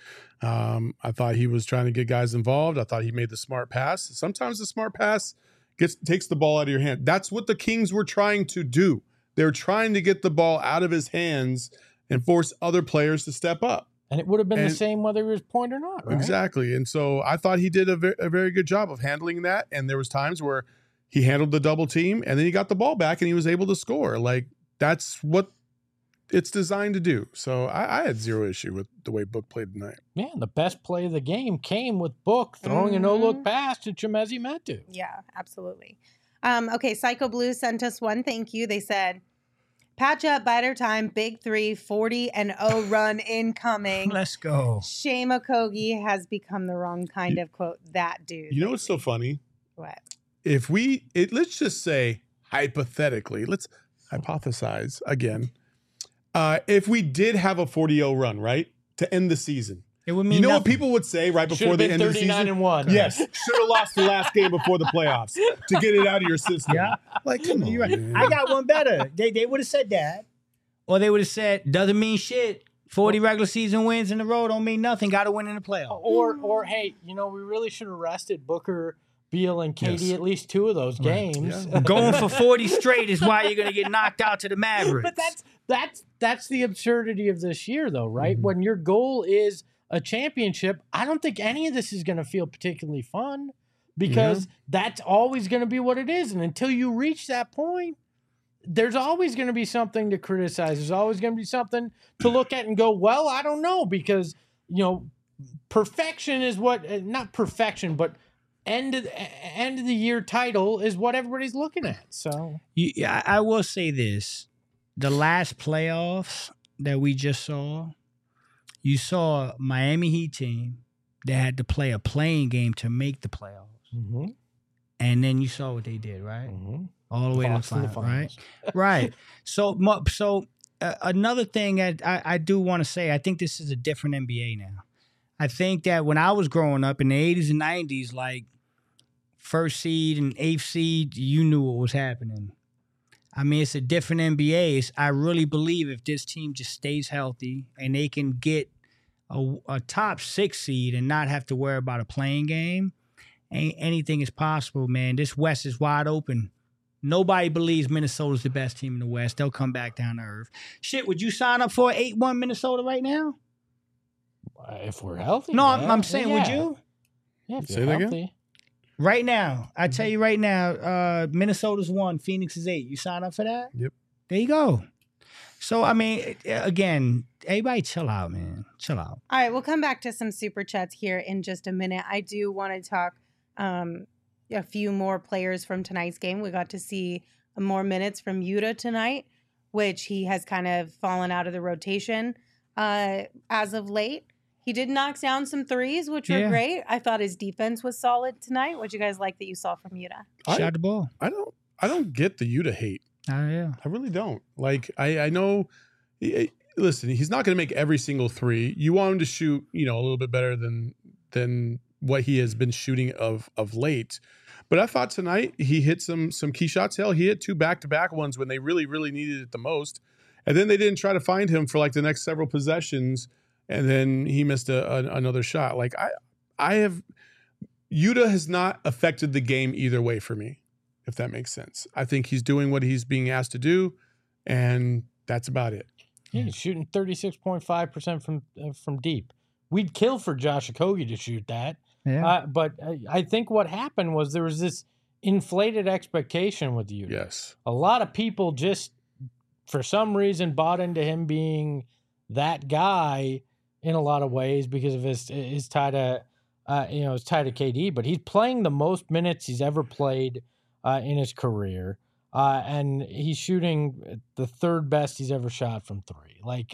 [SPEAKER 3] I thought he was trying to get guys involved. I thought he made the smart pass. Sometimes the smart pass takes the ball out of your hand. That's what the Kings were trying to do. They're trying to get the ball out of his hands and force other players to step up.
[SPEAKER 2] And it would have been the same whether he was point or not, right?
[SPEAKER 3] Exactly. And so I thought he did a very good job of handling that. And there was times where he handled the double team and then he got the ball back and he was able to score. Like, that's what it's designed to do. So I had zero issue with the way Book played tonight.
[SPEAKER 2] Yeah, the best play of the game came with Book throwing a no-look pass to Chimezi Metu.
[SPEAKER 1] Yeah, absolutely. Okay, Psycho Blue sent us one. Thank you. They said, patch up, biter time, big 3, 40-0 run incoming.
[SPEAKER 5] Let's go.
[SPEAKER 1] Shame Okogie has become the wrong kind of, quote, that dude.
[SPEAKER 3] You know what's so funny?
[SPEAKER 1] What?
[SPEAKER 3] If let's just say hypothetically, let's hypothesize again. If we did have a 40-0 run, right? to end the season.
[SPEAKER 5] It would mean
[SPEAKER 3] You know what
[SPEAKER 5] nothing.
[SPEAKER 3] people would say right before
[SPEAKER 2] Should've
[SPEAKER 3] the
[SPEAKER 2] been
[SPEAKER 3] end of the
[SPEAKER 2] 39
[SPEAKER 3] season?
[SPEAKER 2] and 1.
[SPEAKER 3] Yes, should have lost the last game before the playoffs to get it out of your system.
[SPEAKER 5] Yeah.
[SPEAKER 3] Like, come on,
[SPEAKER 5] You're right.
[SPEAKER 3] man.
[SPEAKER 5] I got one better. They would have said that. Or they would have said, doesn't mean shit. 40 regular season wins in a row don't mean nothing. Got to win in the playoffs.
[SPEAKER 2] Or hey, we really should have rested Booker, Beal, and KD
[SPEAKER 3] Yes.
[SPEAKER 2] at least 2 of those games.
[SPEAKER 3] Yeah.
[SPEAKER 5] Going for 40 straight is why you're going to get knocked out to the Mavericks.
[SPEAKER 2] But that's the absurdity of this year, though, right?
[SPEAKER 3] Mm-hmm.
[SPEAKER 2] When your goal is a championship, I don't think any of this is going to feel particularly fun because that's always going to be what it is. And until you reach that point, there's always going to be something to criticize. There's always going to be something to look at and go, well, I don't know, because, perfection is what, not perfection, but end of the year title is what everybody's looking at. So
[SPEAKER 5] I will say this. The last playoffs that we just saw, you saw Miami Heat team that had to play a playing game to make the playoffs. And then you saw what they did, right? All the way to the finals, right? Right. So another thing that I do want to say, I think this is a different NBA now. I think that when I was growing up in the 80s and 90s, like first seed and eighth seed, you knew what was happening. I mean, it's a different NBA. I really believe if this team just stays healthy and they can get a top 6 seed and not have to worry about a playing game, anything is possible, man. This West is wide open. Nobody believes Minnesota's the best team in the West. They'll come back down to earth. Shit, would you sign up for 8-1 Minnesota right now?
[SPEAKER 2] If we're healthy.
[SPEAKER 5] No,
[SPEAKER 2] yeah.
[SPEAKER 5] I'm saying, would you?
[SPEAKER 2] Yeah, if
[SPEAKER 3] Say
[SPEAKER 2] you're
[SPEAKER 3] that again?
[SPEAKER 2] healthy.
[SPEAKER 5] Right now, I tell you right now, Minnesota's 1, Phoenix is 8. You sign up for that?
[SPEAKER 3] Yep.
[SPEAKER 5] There you go. So, I mean, again, everybody chill out, man. Chill out.
[SPEAKER 1] All right, we'll come back to some super chats here in just a minute. I do want to talk a few more players from tonight's game. We got to see more minutes from Yuta tonight, which he has kind of fallen out of the rotation as of late. He did knock down some threes, which were great. I thought his defense was solid tonight. What'd you guys like that you saw from Yuta?
[SPEAKER 5] Shot the ball.
[SPEAKER 3] I don't get the Yuta hate.
[SPEAKER 5] Oh, yeah.
[SPEAKER 3] I really don't. Like, I know, listen, he's not going to make every single three. You want him to shoot, a little bit better than what he has been shooting of late. But I thought tonight he hit some key shots. Hell, he hit 2 back-to-back ones when they really, really needed it the most. And then they didn't try to find him for like the next several possessions. And then he missed another shot. Like Yuta has not affected the game either way for me, if that makes sense. I think he's doing what he's being asked to do, and that's about it.
[SPEAKER 2] Yeah, he's shooting 36.5% from deep. We'd kill for Josh Okogie to shoot that.
[SPEAKER 5] Yeah.
[SPEAKER 2] But I think what happened was there was this inflated expectation with Yuta.
[SPEAKER 3] Yes.
[SPEAKER 2] A lot of people just, for some reason, bought into him being that guy in a lot of ways because of his tie to KD. But he's playing the most minutes he's ever played in his career, and he's shooting the 3rd best he's ever shot from 3. Like,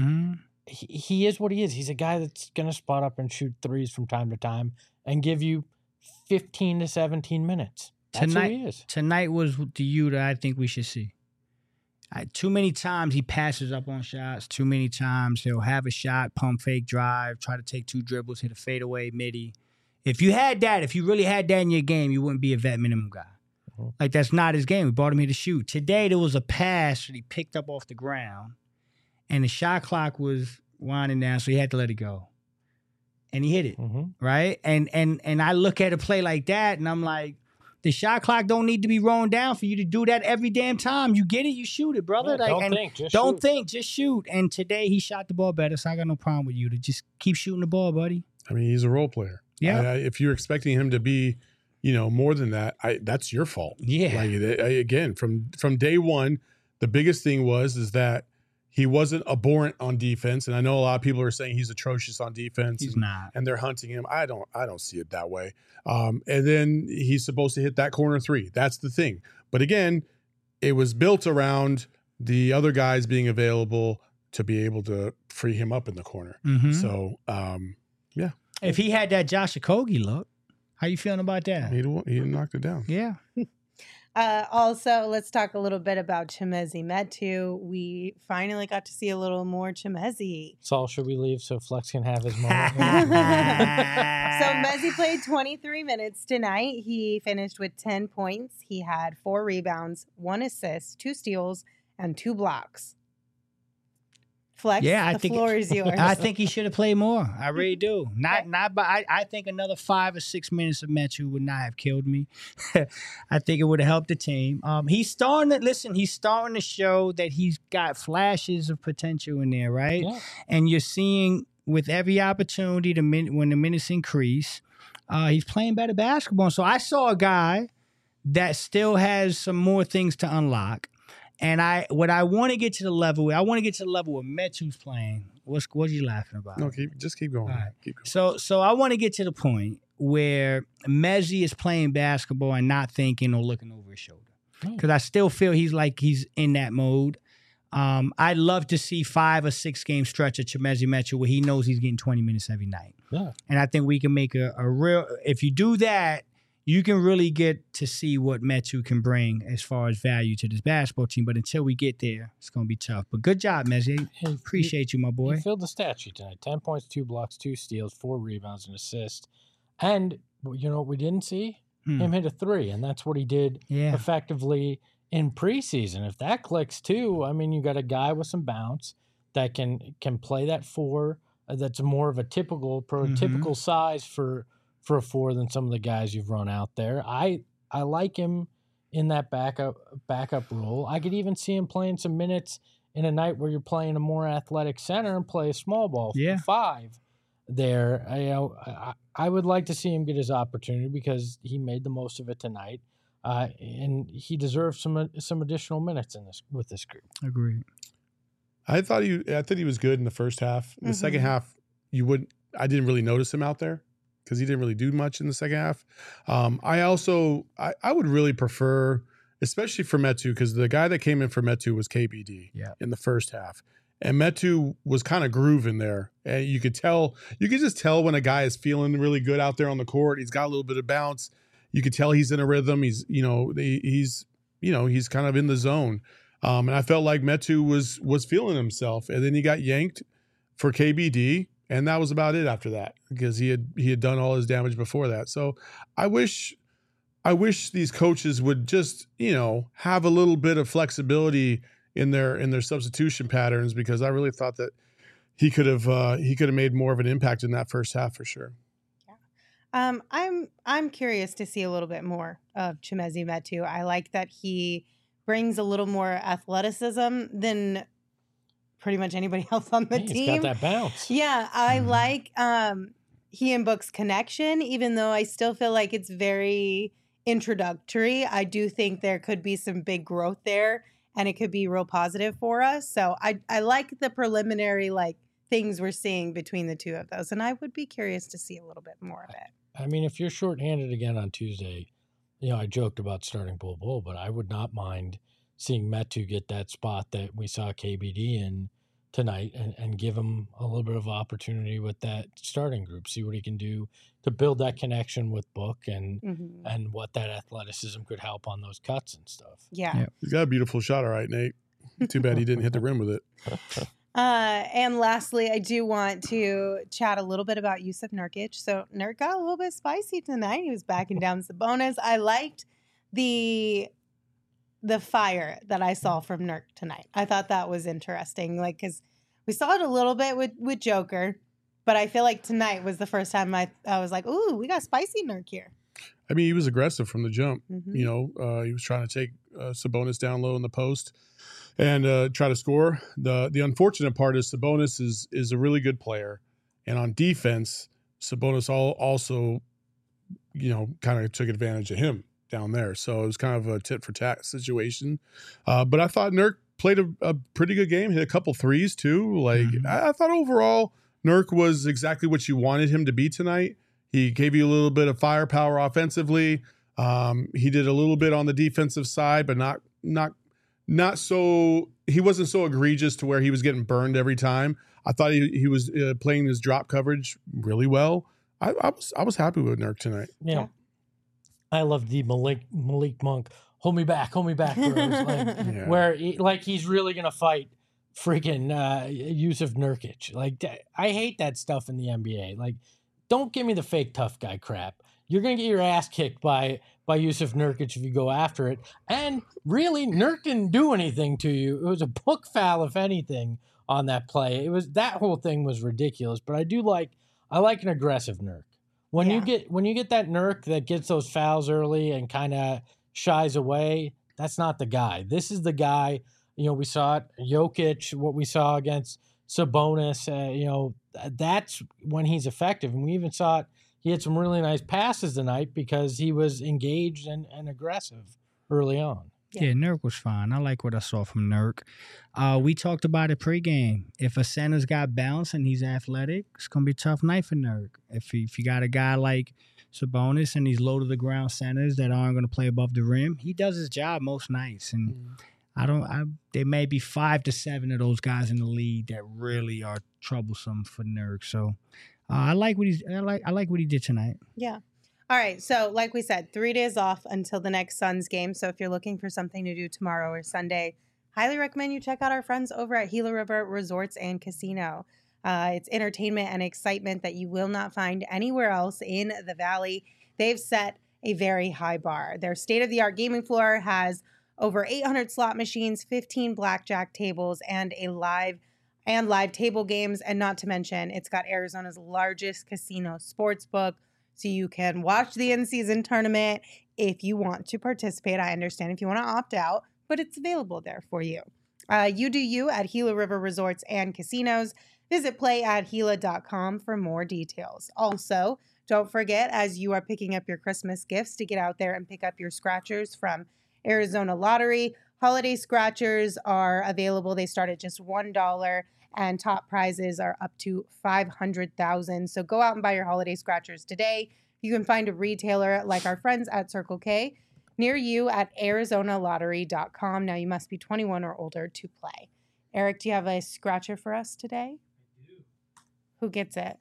[SPEAKER 2] he is what he is. He's a guy that's going to spot up and shoot threes from time to time and give you 15 to 17 minutes. That's who he is.
[SPEAKER 5] Tonight was the Yuta I think we should see. Too many times he passes up on shots. Too many times he'll have a shot, pump fake drive, try to take 2 dribbles, hit a fadeaway midi. If you really had that in your game, you wouldn't be a vet minimum guy. Like, that's not his game. We brought him here to shoot. Today, there was a pass that he picked up off the ground, and the shot clock was winding down, so he had to let it go. And he hit it, right? And I look at a play like that, and I'm like, the shot clock don't need to be rolling down for you to do that every damn time. You get it, you shoot it, brother.
[SPEAKER 2] Yeah,
[SPEAKER 5] don't think, just shoot. And today, he shot the ball better, so I got no problem with you to just keep shooting the ball, buddy.
[SPEAKER 3] I mean, he's a role player.
[SPEAKER 5] Yeah.
[SPEAKER 3] If you're expecting him to be, more than that, that's your fault.
[SPEAKER 5] Yeah.
[SPEAKER 3] Like, again, from day one, the biggest thing is that he wasn't abhorrent on defense, and I know a lot of people are saying he's atrocious on defense.
[SPEAKER 5] He's not,
[SPEAKER 3] and they're hunting him. I don't see it that way. And then he's supposed to hit that corner 3. That's the thing. But again, it was built around the other guys being available to be able to free him up in the corner. So, yeah.
[SPEAKER 5] If he had that Josh Okogie look, how you feeling about that?
[SPEAKER 3] He knocked it down.
[SPEAKER 5] Yeah.
[SPEAKER 1] Also, let's talk a little bit about Chimezie Metu. We finally got to see a little more Chimezie.
[SPEAKER 2] Saul, should we leave so Flex can have his moment?
[SPEAKER 1] So Mezzi played 23 minutes tonight. He finished with 10 points. He had 4 rebounds, 1 assist, 2 steals, and 2 blocks. Flex, the floor is yours.
[SPEAKER 5] I think he should have played more. I really do. I think another 5 or 6 minutes of Metu would not have killed me. I think it would have helped the team. He's starting to show that he's got flashes of potential in there, right?
[SPEAKER 2] Yeah.
[SPEAKER 5] And you're seeing with every opportunity when the minutes increase, he's playing better basketball. So I saw a guy that still has some more things to unlock. And I want to get to the level where Metu's playing. What are you laughing about?
[SPEAKER 3] No, just keep going.
[SPEAKER 5] All right.
[SPEAKER 3] Keep going.
[SPEAKER 5] So I want to get to the point where Mezzi is playing basketball and not thinking or looking over his shoulder. Because I still feel he's in that mode. I'd love to see 5 or 6 game stretch of Chimezie Metu where he knows he's getting 20 minutes every night.
[SPEAKER 2] Yeah.
[SPEAKER 5] And I think we can make a real – if you do that, you can really get to see what Metu can bring as far as value to this basketball team. But until we get there, it's going to be tough. But good job, Mezzi. Appreciate you, my boy.
[SPEAKER 2] He filled the stat sheet tonight. 10 points, 2 blocks, 2 steals, 4 rebounds, and assists. And you know what we didn't see? Him hit a 3, and that's what he did effectively in preseason. If that clicks too, I mean, you got a guy with some bounce that can play that 4. That's more of a prototypical size for a 4 than some of the guys you've run out there. I like him in that backup role. I could even see him playing some minutes in a night where you're playing a more athletic center and play a small ball 5 there. I would like to see him get his opportunity because he made the most of it tonight, and he deserves some additional minutes with this group.
[SPEAKER 5] Agreed.
[SPEAKER 3] I thought he was good in the first half. In the second half, I didn't really notice him out there because he didn't really do much in the second half. I would really prefer, especially for Metu, because the guy that came in for Metu was KBD in the first half. And Metu was kind of grooving there. And you could just tell when a guy is feeling really good out there on the court. He's got a little bit of bounce. You could tell he's in a rhythm. He's kind of in the zone. And I felt like Metu was feeling himself. And then he got yanked for KBD. And that was about it after that because he had done all his damage before that. So I wish these coaches would just, have a little bit of flexibility in their substitution patterns because I really thought that he could have made more of an impact in that first half for sure.
[SPEAKER 1] Yeah. I'm curious to see a little bit more of Chimezie Metu. I like that he brings a little more athleticism than pretty much anybody else on the team.
[SPEAKER 2] He's got that bounce.
[SPEAKER 1] Yeah, I like he and Book's connection, even though I still feel like it's very introductory. I do think there could be some big growth there, and it could be real positive for us. So I like the preliminary things we're seeing between the two of those, and I would be curious to see a little bit more of it.
[SPEAKER 2] I mean, if you're shorthanded again on Tuesday, I joked about starting Bull, but I would not mind seeing Metu get that spot that we saw KBD in tonight and give him a little bit of opportunity with that starting group, see what he can do to build that connection with Book and what that athleticism could help on those cuts and stuff.
[SPEAKER 1] Yeah.
[SPEAKER 3] He's got a beautiful shot, all right, Nate. Too bad he didn't hit the rim with it.
[SPEAKER 1] And lastly, I do want to chat a little bit about Yusuf Nurkic. So Nurk got a little bit spicy tonight. He was backing down Sabonis. I liked the fire that I saw from Nurk tonight. I thought that was interesting, because we saw it a little bit with Joker, but I feel like tonight was the first time I was like, ooh, we got spicy Nurk here.
[SPEAKER 3] I mean, he was aggressive from the jump. He was trying to take Sabonis down low in the post and try to score. The unfortunate part is Sabonis is a really good player, and on defense, Sabonis also, kind of took advantage of him down there. So it was kind of a tit for tat situation. But I thought Nurk played a pretty good game, hit a couple threes too. I thought overall Nurk was exactly what you wanted him to be tonight. He gave you a little bit of firepower offensively. He did a little bit on the defensive side, but not so, he wasn't so egregious to where he was getting burned every time. I thought he was playing his drop coverage really well. I was happy with Nurk tonight.
[SPEAKER 2] Yeah. I love the Malik Monk hold me back, bros. Like, where he's really gonna fight freaking Yusuf Nurkic. Like, I hate that stuff in the NBA. Like, don't give me the fake tough guy crap. You're gonna get your ass kicked by Yusuf Nurkic if you go after it. And really, Nurk didn't do anything to you. It was a book foul, if anything, on that play. That whole thing was ridiculous. But I like an aggressive Nurk. When you get that Nurk that gets those fouls early and kind of shies away, that's not the guy. This is the guy. We saw it, Jokic, what we saw against Sabonis. That's when he's effective. And we even saw it. He had some really nice passes tonight because he was engaged and aggressive early on.
[SPEAKER 5] Yeah, Nurk was fine. I like what I saw from Nurk. We talked about it pregame. If a center's got bounce and he's athletic, it's going to be a tough night for Nurk. If you got a guy like Sabonis and these low-to-the-ground centers that aren't going to play above the rim, he does his job most nights. And there may be 5 to 7 of those guys in the league that really are troublesome for Nurk. So I like what he did tonight.
[SPEAKER 1] Yeah. All right. So like we said, 3 days off until the next Suns game. So if you're looking for something to do tomorrow or Sunday, highly recommend you check out our friends over at Gila River Resorts and Casino. It's entertainment and excitement that you will not find anywhere else in the Valley. They've set a very high bar. Their state-of-the-art gaming floor has over 800 slot machines, 15 blackjack tables, and live table games. And not to mention, it's got Arizona's largest casino sports book. So you can watch the in-season tournament if you want to participate. I understand if you want to opt out, but it's available there for you. You do you at Gila River Resorts and Casinos. Visit playatgila.com for more details. Also, don't forget, as you are picking up your Christmas gifts, to get out there and pick up your scratchers from Arizona Lottery. Holiday scratchers are available. They start at just $1, and top prizes are up to $500,000. So go out and buy your holiday scratchers today. You can find a retailer like our friends at Circle K near you at ArizonaLottery.com. Now, you must be 21 or older to play. Eric, do you have a scratcher for us today? I do. Who gets it?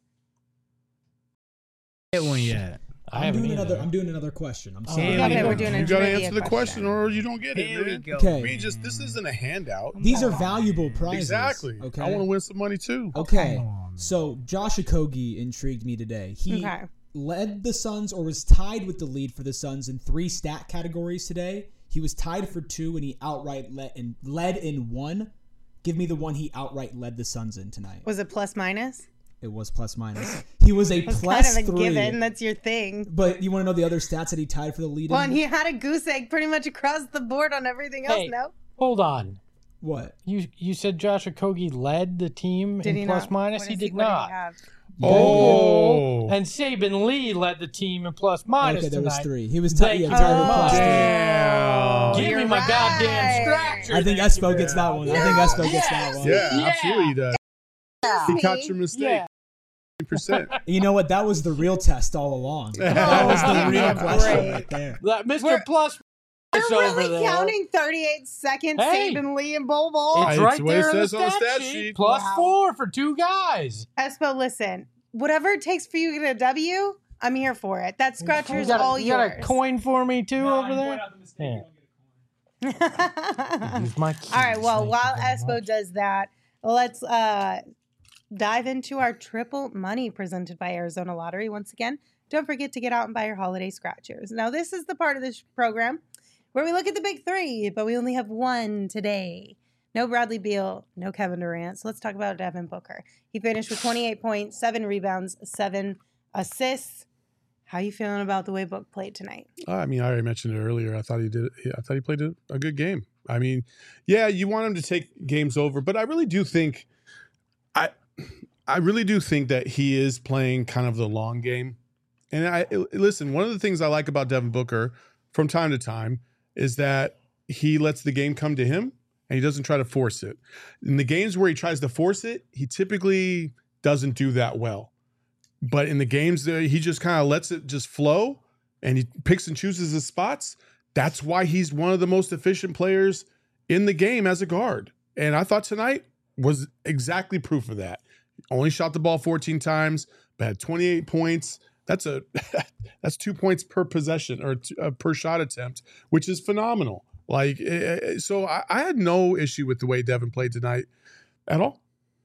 [SPEAKER 5] Get one yet.
[SPEAKER 7] I'm doing another question. I'm sorry.
[SPEAKER 1] Okay, we're doing
[SPEAKER 3] You got to answer the question or you don't get it.
[SPEAKER 5] Here we
[SPEAKER 3] Man.
[SPEAKER 5] go.
[SPEAKER 7] Okay.
[SPEAKER 3] This isn't a handout.
[SPEAKER 7] These are valuable prizes.
[SPEAKER 3] Exactly.
[SPEAKER 7] Okay.
[SPEAKER 3] I want to win some money too.
[SPEAKER 7] Okay.
[SPEAKER 5] Come on, man.
[SPEAKER 7] So Josh Okogie intrigued me today. He
[SPEAKER 1] Okay.
[SPEAKER 7] led the Suns, or was tied with the lead for the Suns in 3 stat categories today. He was tied for 2, and he outright led in 1. Give me the one he outright led the Suns in tonight.
[SPEAKER 1] Was it plus minus?
[SPEAKER 7] It was plus minus. He was a
[SPEAKER 1] It's
[SPEAKER 7] plus
[SPEAKER 1] kind of a
[SPEAKER 7] 3.
[SPEAKER 1] given. That's your thing.
[SPEAKER 7] But you want to know the other stats that he tied for the lead
[SPEAKER 1] Well,
[SPEAKER 7] in?
[SPEAKER 1] and he had a goose egg pretty much across the board on everything else,
[SPEAKER 2] Hey.
[SPEAKER 1] no?
[SPEAKER 2] Hold on.
[SPEAKER 7] What?
[SPEAKER 2] You said Josh Okogie led the team
[SPEAKER 1] Did
[SPEAKER 2] in
[SPEAKER 1] he
[SPEAKER 2] plus
[SPEAKER 1] not?
[SPEAKER 2] minus?
[SPEAKER 1] What
[SPEAKER 2] He
[SPEAKER 1] is
[SPEAKER 2] did
[SPEAKER 1] what
[SPEAKER 2] not.
[SPEAKER 1] he have?
[SPEAKER 3] Oh.
[SPEAKER 2] And Saban Lee led the team in plus minus
[SPEAKER 7] Okay, there was
[SPEAKER 2] tonight.
[SPEAKER 7] 3. He was
[SPEAKER 2] Thank
[SPEAKER 7] tied
[SPEAKER 2] you
[SPEAKER 7] for
[SPEAKER 2] very much.
[SPEAKER 7] plus 3.
[SPEAKER 3] Damn.
[SPEAKER 2] Give me
[SPEAKER 1] You're
[SPEAKER 2] my
[SPEAKER 1] right.
[SPEAKER 2] goddamn scratcher.
[SPEAKER 7] I think
[SPEAKER 2] Thank you
[SPEAKER 7] Espo
[SPEAKER 2] very
[SPEAKER 7] gets that
[SPEAKER 2] much.
[SPEAKER 7] one. I think Espo gets that one.
[SPEAKER 3] Yeah,
[SPEAKER 2] Yeah.
[SPEAKER 3] absolutely he does. He
[SPEAKER 1] Me?
[SPEAKER 3] caught your mistake.
[SPEAKER 2] Yeah.
[SPEAKER 3] Percent.
[SPEAKER 7] You know what? That was the real test all along. That was the real
[SPEAKER 1] Yeah,
[SPEAKER 7] question
[SPEAKER 1] great.
[SPEAKER 7] right there.
[SPEAKER 2] That Mr.
[SPEAKER 1] We're-
[SPEAKER 2] Plus
[SPEAKER 1] You're
[SPEAKER 2] over
[SPEAKER 1] really
[SPEAKER 2] there.
[SPEAKER 1] counting 38 seconds,
[SPEAKER 2] Hey.
[SPEAKER 1] Saban Lee and Bol Bol?
[SPEAKER 2] It's
[SPEAKER 3] It's
[SPEAKER 2] right
[SPEAKER 3] what it
[SPEAKER 2] there in the
[SPEAKER 3] says on the
[SPEAKER 2] stat
[SPEAKER 3] stat
[SPEAKER 2] sheet.
[SPEAKER 3] sheet.
[SPEAKER 2] Plus
[SPEAKER 1] Wow.
[SPEAKER 2] 4 for 2 guys.
[SPEAKER 1] Espo, listen, whatever it takes for you to get a W, I'm here for it. That scratcher is all
[SPEAKER 2] you got
[SPEAKER 1] yours.
[SPEAKER 2] a coin for me too over there? Yeah. Use my keys.
[SPEAKER 1] All right, well,
[SPEAKER 2] Thank
[SPEAKER 1] while
[SPEAKER 2] you very
[SPEAKER 1] Espo
[SPEAKER 2] much.
[SPEAKER 1] does that, let's dive into our triple money presented by Arizona Lottery. Once again, don't forget to get out and buy your holiday scratchers. Now, this is the part of this program where we look at the big 3, but we only have one today. No Bradley Beal, no Kevin Durant. So let's talk about Devin Booker. He finished with 28 points, 7 rebounds, 7 assists. How you feeling about the way Book played tonight?
[SPEAKER 3] I mean, I already mentioned it earlier. I thought he played a good game. I mean, yeah, you want him to take games over, but I really do think that he is playing kind of the long game. And listen, one of the things I like about Devin Booker from time to time is that he lets the game come to him and he doesn't try to force it. In the games where he tries to force it, he typically doesn't do that well. But in the games that he just kind of lets it just flow and he picks and chooses his spots, that's why he's one of the most efficient players in the game as a guard. And I thought tonight was exactly proof of that. Only shot the ball 14 times, but had 28 points. That's 2 points per possession or per shot attempt, which is phenomenal. Like, so I had no issue with the way Devin played tonight at all.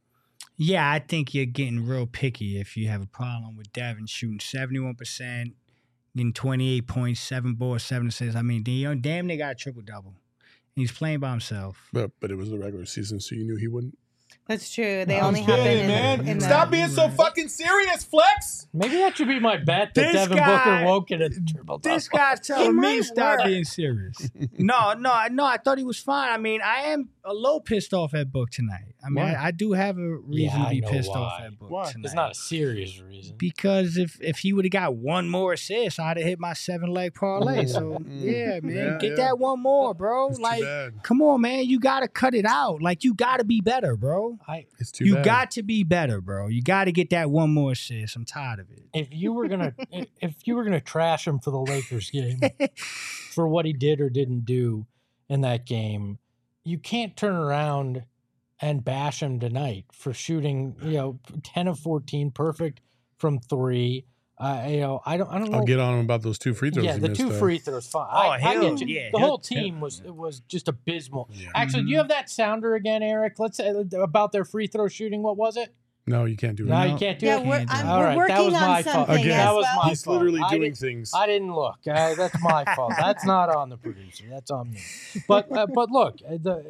[SPEAKER 5] Yeah, I think you're getting real picky if you have a problem with Devin shooting 71%, getting 28 points, 7 boards, 7 assists. I mean, damn, they got a triple-double. He's playing by himself.
[SPEAKER 3] But it was the regular season, so you knew he wouldn't.
[SPEAKER 1] That's true. They
[SPEAKER 3] I'm
[SPEAKER 1] only
[SPEAKER 3] kidding,
[SPEAKER 1] happen in
[SPEAKER 3] Stop
[SPEAKER 1] the,
[SPEAKER 3] being so fucking serious, Flex.
[SPEAKER 2] Maybe that should be my bet that
[SPEAKER 5] This
[SPEAKER 2] Devin
[SPEAKER 5] guy-
[SPEAKER 2] Booker won't get a triple double.
[SPEAKER 5] This guy's telling
[SPEAKER 1] It
[SPEAKER 5] me
[SPEAKER 1] might
[SPEAKER 5] to stop
[SPEAKER 1] work.
[SPEAKER 5] being serious. No, I thought he was fine. I mean, I am a little pissed off at Book tonight. I mean,
[SPEAKER 3] Why?
[SPEAKER 5] I do have a reason
[SPEAKER 2] Yeah,
[SPEAKER 5] to be
[SPEAKER 2] I know
[SPEAKER 5] pissed
[SPEAKER 2] why.
[SPEAKER 5] off at Book
[SPEAKER 3] Why?
[SPEAKER 5] tonight.
[SPEAKER 2] It's not a serious reason.
[SPEAKER 5] Because if he would have got one more assist, I'd have hit my 7-leg parlay. So yeah, man,
[SPEAKER 3] Yeah,
[SPEAKER 5] get
[SPEAKER 3] yeah.
[SPEAKER 5] that one more, bro.
[SPEAKER 3] It's too
[SPEAKER 5] Like,
[SPEAKER 3] bad.
[SPEAKER 5] come on, man, you gotta cut it out. Like, you gotta be better, bro.
[SPEAKER 3] It's too
[SPEAKER 5] You
[SPEAKER 3] bad.
[SPEAKER 5] got to be better, bro. You got to get that one more assist. I'm tired of it.
[SPEAKER 2] If you were gonna trash him for the Lakers game for what he did or didn't do in that game, you can't turn around and bash him tonight for shooting 10 of 14 perfect from 3. I don't know.
[SPEAKER 3] I'll get on him about those 2 free throws.
[SPEAKER 2] Yeah,
[SPEAKER 3] he
[SPEAKER 2] the
[SPEAKER 3] missed,
[SPEAKER 2] 2
[SPEAKER 3] though.
[SPEAKER 2] free throws fine.
[SPEAKER 5] Oh,
[SPEAKER 2] I
[SPEAKER 5] he'll-
[SPEAKER 2] get you.
[SPEAKER 5] yeah,
[SPEAKER 2] the
[SPEAKER 5] he'll-
[SPEAKER 2] whole team was just abysmal.
[SPEAKER 3] Yeah.
[SPEAKER 2] Actually, do you have that sounder again, Eric? Let's say about their free throw shooting. What was it?
[SPEAKER 3] No, you can't do it.
[SPEAKER 2] No, you can't do
[SPEAKER 1] yeah,
[SPEAKER 2] it.
[SPEAKER 1] we're,
[SPEAKER 5] Can't do
[SPEAKER 1] I'm,
[SPEAKER 5] it.
[SPEAKER 2] All
[SPEAKER 1] we're
[SPEAKER 2] right, that
[SPEAKER 1] working
[SPEAKER 2] was
[SPEAKER 1] on
[SPEAKER 2] my fault.
[SPEAKER 1] something
[SPEAKER 3] Again,
[SPEAKER 1] as
[SPEAKER 2] that was
[SPEAKER 1] well.
[SPEAKER 2] my
[SPEAKER 3] He's
[SPEAKER 2] fault.
[SPEAKER 3] literally
[SPEAKER 2] I
[SPEAKER 3] doing
[SPEAKER 2] didn't-
[SPEAKER 3] things.
[SPEAKER 2] I didn't look. That's my fault. That's not on the producer. That's on me. But look,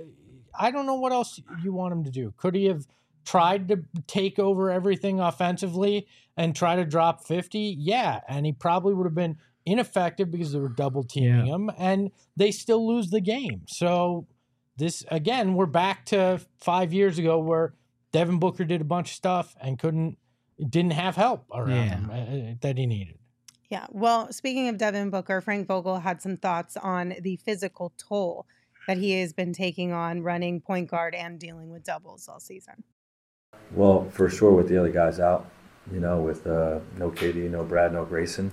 [SPEAKER 2] I don't know what else you want him to do. Could he have tried to take over everything offensively and try to drop 50? Yeah, and he probably would have been ineffective because they were double teaming him, and they still lose the game. So this again, we're back to 5 years ago where Devin Booker did a bunch of stuff and didn't have help around him that he needed.
[SPEAKER 1] Yeah. Well, speaking of Devin Booker, Frank Vogel had some thoughts on the physical toll that he has been taking on running point guard and dealing with doubles all season.
[SPEAKER 8] Well, for sure with the other guys out, with no KD, no Brad, no Grayson,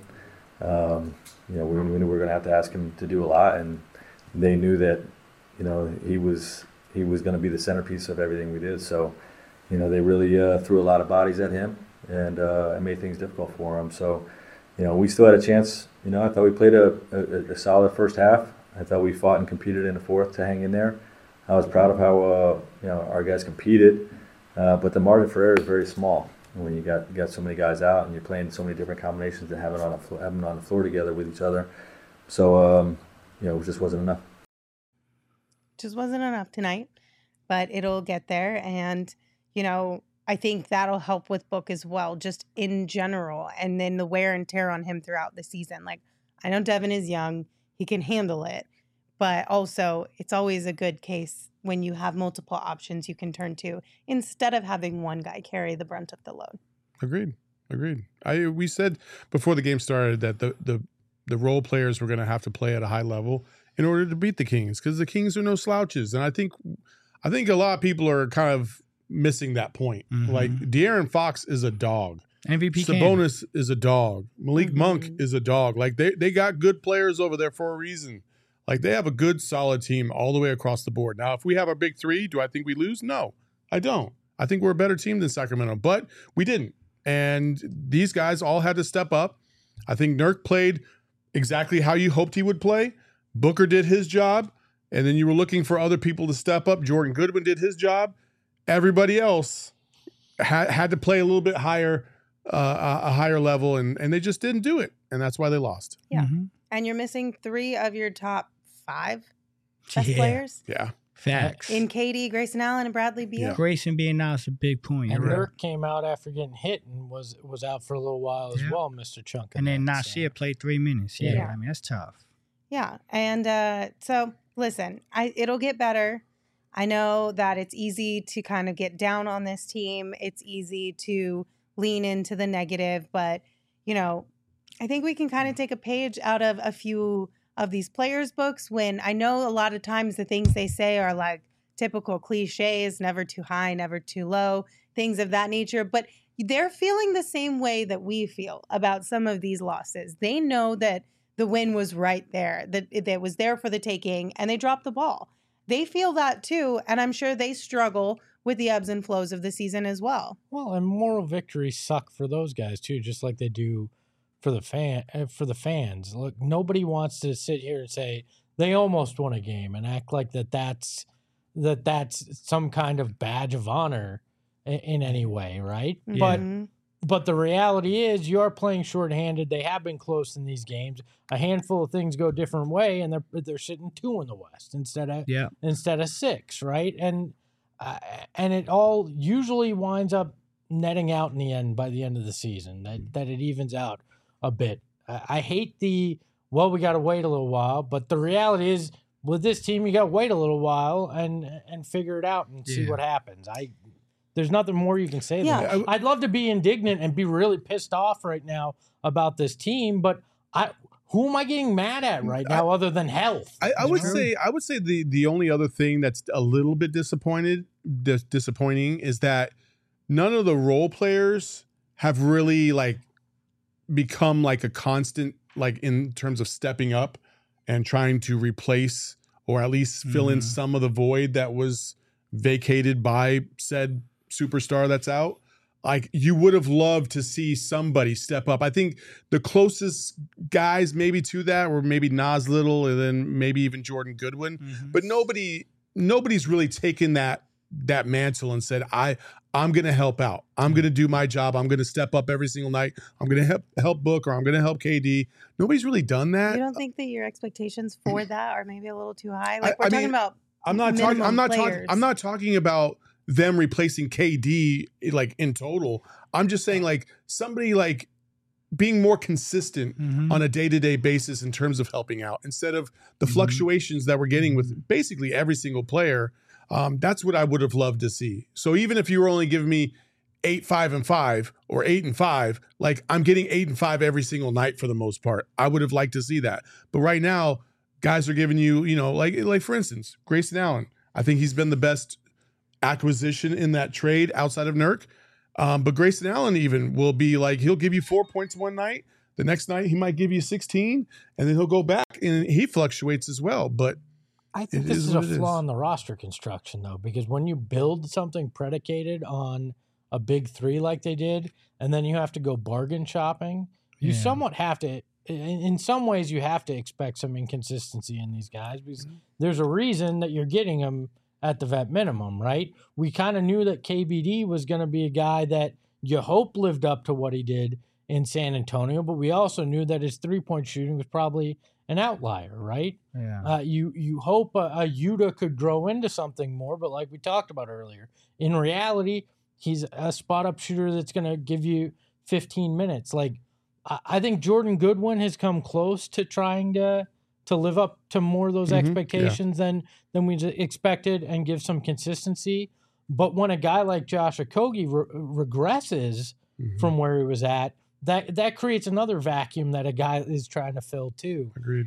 [SPEAKER 8] we knew we were going to have to ask him to do a lot, and they knew that, he was going to be the centerpiece of everything we did. So, they really threw a lot of bodies at him and made things difficult for him. So, we still had a chance. I thought we played a solid first half. I thought we fought and competed in the fourth to hang in there. I was proud of how our guys competed, but the margin for error is very small when you got so many guys out and you're playing so many different combinations and having them on the floor together with each other. So it just wasn't enough.
[SPEAKER 1] Just wasn't enough tonight, but it'll get there. And, I think that'll help with Book as well, just in general. And then the wear and tear on him throughout the season. Like, I know Devin is young, he can handle it, but also it's always a good case when you have multiple options you can turn to instead of having one guy carry the brunt of the load.
[SPEAKER 3] Agreed. We said before the game started that the role players were going to have to play at a high level in order to beat the Kings, because the Kings are no slouches. And I think a lot of people are kind of missing that point.
[SPEAKER 5] Mhm.
[SPEAKER 3] Like, De'Aaron Fox is a dog.
[SPEAKER 5] MVP
[SPEAKER 3] Sabonis is a dog. Malik Monk is a dog. Like, they got good players over there for a reason. Like, they have a good, solid team all the way across the board. Now, if we have our big three, do I think we lose? No, I don't. I think we're a better team than Sacramento, but we didn't. And these guys all had to step up. I think Nurk played exactly how you hoped he would play. Booker did his job, and then you were looking for other people to step up. Jordan Goodwin did his job. Everybody else had to play a little bit higher, a higher level, and they just didn't do it, and that's why they lost.
[SPEAKER 1] Yeah.
[SPEAKER 5] Mm-hmm.
[SPEAKER 1] And you're missing 3 of your top 5 best players
[SPEAKER 3] Yeah.
[SPEAKER 5] Facts.
[SPEAKER 1] in KD, Grayson Allen, and Bradley Beal.
[SPEAKER 3] Yeah.
[SPEAKER 5] Grayson being out is a big point.
[SPEAKER 2] And
[SPEAKER 5] You're right.
[SPEAKER 2] Nurk came out after getting hit and was out for a little while as
[SPEAKER 5] Yeah.
[SPEAKER 2] well, Mr. Chunk.
[SPEAKER 5] And then Nasir played 3 minutes. Yeah,
[SPEAKER 1] Yeah.
[SPEAKER 5] I mean, that's tough.
[SPEAKER 1] Yeah. And so listen, it'll get better. I know that it's easy to kind of get down on this team. It's easy to lean into the negative, but I think we can kind of take a page out of a few of these players' books when I know a lot of times the things they say are like typical cliches, never too high, never too low, things of that nature. But they're feeling the same way that we feel about some of these losses. They know that the win was right there, that it was there for the taking, and they dropped the ball. They feel that too, and I'm sure they struggle with the ebbs and flows of the season as well.
[SPEAKER 2] Well, and moral victories suck for those guys too, just like they do for the fans. Look, nobody wants to sit here and say they almost won a game and act like that's some kind of badge of honor in any way, right?
[SPEAKER 1] Mhm.
[SPEAKER 2] But the reality is you are playing shorthanded. They have been close in these games. A handful of things go a different way, and they're sitting 2 in the West instead of 6, right? And it all usually winds up netting out in the end by the end of the season. That it evens out a bit. I hate we got to wait a little while, but the reality is with this team, you got to wait a little while and figure it out and see what happens. There's nothing more you can say.
[SPEAKER 1] Yeah.
[SPEAKER 2] I'd love to be indignant and be really pissed off right now about this team, but who am I getting mad at right now other than health?
[SPEAKER 3] I would say the only other thing that's a little bit disappointing is that none of the role players have really like become like a constant, like in terms of stepping up and trying to replace or at least fill in some of the void that was vacated by said superstar that's out. Like you would have loved to see somebody step up. I think the closest guys maybe to that were maybe Nas Little and then maybe even Jordan Goodwin, but nobody's really taken that mantle and said, I'm going to help out. I'm going to do my job. I'm going to step up every single night. I'm going to help Book, or I'm going to help KD. Nobody's really done that.
[SPEAKER 1] You don't think that your expectations for that are maybe a little too high? Like we're talking about
[SPEAKER 3] I'm not talking about them replacing KD like in total. I'm just saying like somebody like being more consistent on a day-to-day basis in terms of helping out instead of the fluctuations that we're getting with basically every single player. That's what I would have loved to see. So even if you were only giving me 8-5-5 or 8-5, like I'm getting 8-5 every single night for the most part. I would have liked to see that. But right now, guys are giving you, like for instance, Grayson Allen. I think he's been the best acquisition in that trade outside of Nurk. But Grayson Allen even will be like, he'll give you 4 points one night. The next night he might give you 16 and then he'll go back and he fluctuates as well. But
[SPEAKER 2] I think this is a flaw in the roster construction though, because when you build something predicated on a big 3 like they did, and then you have to go bargain shopping, you somewhat have to, in some ways you have to expect some inconsistency in these guys because there's a reason that you're getting them at the vet minimum, right? We kind of knew that KBD was going to be a guy that you hope lived up to what he did in San Antonio, but we also knew that his 3-point shooting was probably an outlier, right?
[SPEAKER 5] Yeah.
[SPEAKER 2] You hope a Yuta could grow into something more, but like we talked about earlier, in reality, he's a spot-up shooter that's going to give you 15 minutes. Like, I think Jordan Goodwin has come close to trying to live up to more of those expectations than we expected and give some consistency. But when a guy like Josh Okogie regresses from where he was at, that creates another vacuum that a guy is trying to fill too.
[SPEAKER 3] Agreed.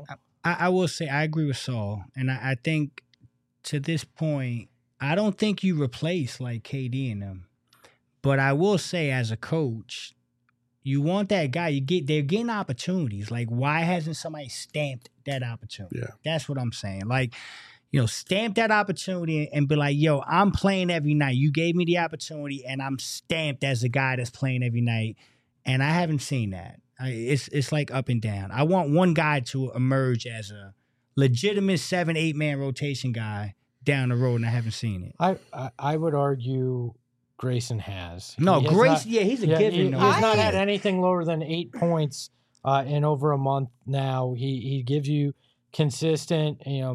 [SPEAKER 5] I will say I agree with Saul, and I think to this point, I don't think you replace like KD and them. But I will say as a coach, you want that guy. They're getting opportunities. Like, why hasn't somebody stamped that opportunity?
[SPEAKER 3] Yeah.
[SPEAKER 5] That's what I'm saying. Like, stamp that opportunity and be like, yo, I'm playing every night. You gave me the opportunity, and I'm stamped as a guy that's playing every night. And I haven't seen that. It's like up and down. I want one guy to emerge as a legitimate 7-8 man rotation guy down the road, and I haven't seen it.
[SPEAKER 2] I would argue Grayson has.
[SPEAKER 5] He's a given.
[SPEAKER 2] He's not had anything lower than 8 points in over a month now. He gives you consistent,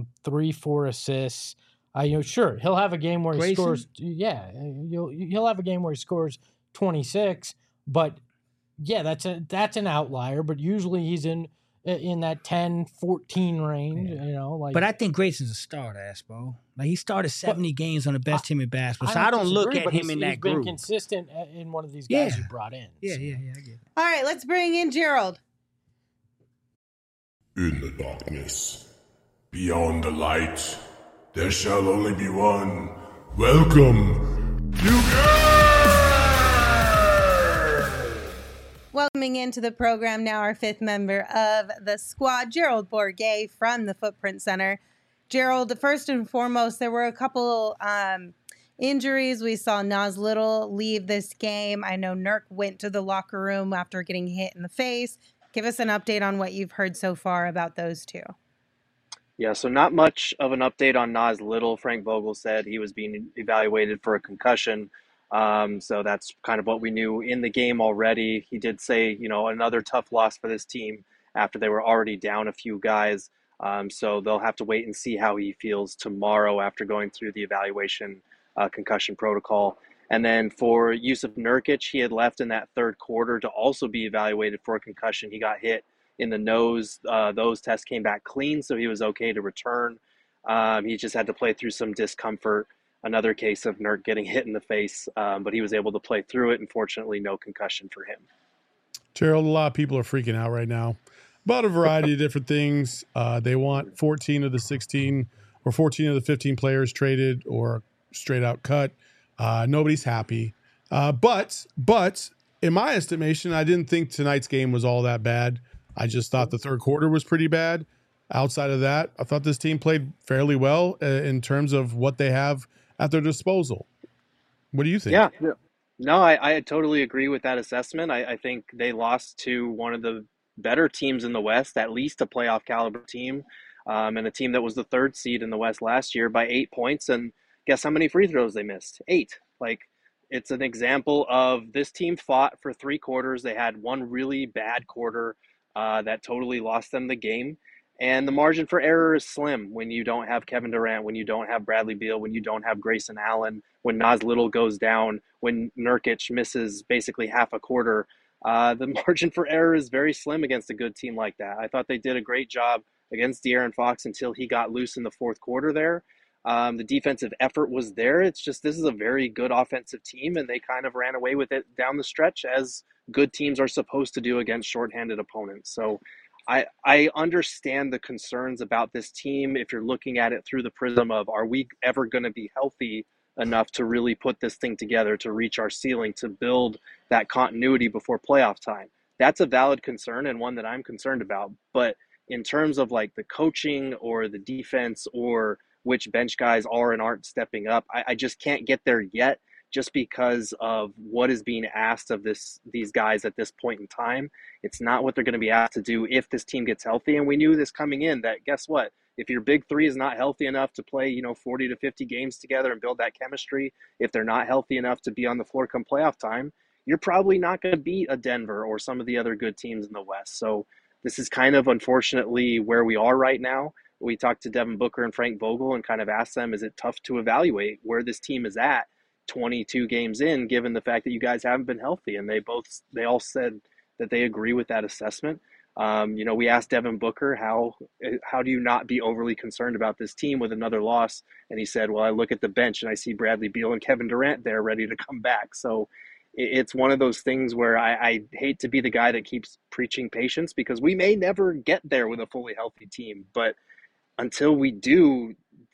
[SPEAKER 2] 3-4 assists. Sure, he'll have a game where he scores. Yeah, he'll have a game where he scores 26, but yeah, that's an outlier. But usually he's in that 10-14 range. But
[SPEAKER 5] I think Grayson's a starter, Aspo. Like, he started 70 games on the best team in basketball, so I don't look at him in that group.
[SPEAKER 2] He's been consistent in one of these guys you brought in.
[SPEAKER 5] Yeah, I get it.
[SPEAKER 1] All right, let's bring in Gerald.
[SPEAKER 6] In the darkness, beyond the light, there shall only be one. Welcome,
[SPEAKER 1] Welcoming into the program now our 5th member of the squad, Gerald Bourguet from the Footprint Center. Gerald, first and foremost, there were a couple injuries. We saw Nas Little leave this game. I know Nurk went to the locker room after getting hit in the face. Give us an update on what you've heard so far about those two.
[SPEAKER 9] Yeah, so not much of an update on Nas Little. Frank Vogel said he was being evaluated for a concussion. So that's kind of what we knew in the game already. He did say, another tough loss for this team after they were already down a few guys. So they'll have to wait and see how he feels tomorrow after going through the evaluation concussion protocol. And then for Yusuf Nurkic, he had left in that third quarter to also be evaluated for a concussion. He got hit in the nose. Those tests came back clean, so he was okay to return. He just had to play through some discomfort. Another case of Nurk getting hit in the face, but he was able to play through it. Unfortunately, no concussion for him.
[SPEAKER 3] Gerald, a lot of people are freaking out right now about a variety of different things. They want 14 of the 16 or 14 of the 15 players traded or straight out cut. Nobody's happy. But in my estimation, I didn't think tonight's game was all that bad. I just thought the third quarter was pretty bad. Outside of that, I thought this team played fairly well in terms of what they have at their disposal. What do you think?
[SPEAKER 9] Yeah, no, I totally agree with that assessment. I think they lost to one of the better teams in the West, at least a playoff caliber team, and a team that was the third seed in the West last year by 8 points. And guess how many free throws they missed? 8. It's an example of this team fought for 3 quarters. They had one really bad quarter that totally lost them the game. And the margin for error is slim when you don't have Kevin Durant, when you don't have Bradley Beal, when you don't have Grayson Allen, when Nas Little goes down, when Nurkic misses basically half a quarter. The margin for error is very slim against a good team like that. I thought they did a great job against De'Aaron Fox until he got loose in the fourth quarter there. The defensive effort was there. It's just this is a very good offensive team, and they kind of ran away with it down the stretch, as good teams are supposed to do against shorthanded opponents. So I understand the concerns about this team if you're looking at it through the prism of, are we ever going to be healthy enough to really put this thing together, to reach our ceiling, to build that continuity before playoff time? That's a valid concern and one that I'm concerned about. But in terms of the coaching or the defense or which bench guys are and aren't stepping up, I just can't get there yet, just because of what is being asked of these guys at this point in time. It's not what they're going to be asked to do if this team gets healthy. And we knew this coming in, that guess what? If your big three is not healthy enough to play, 40 to 50 games together and build that chemistry, if they're not healthy enough to be on the floor come playoff time, you're probably not going to beat a Denver or some of the other good teams in the West. So this is kind of unfortunately where we are right now. We talked to Devin Booker and Frank Vogel and kind of asked them, is it tough to evaluate where this team is at 22 games in, given the fact that you guys haven't been healthy? And they all said that they agree with that assessment. We asked Devin Booker, how do you not be overly concerned about this team with another loss? And he said, well, I look at the bench and I see Bradley Beal and Kevin Durant there ready to come back. So it's one of those things where I hate to be the guy that keeps preaching patience, because we may never get there with a fully healthy team. But until we do,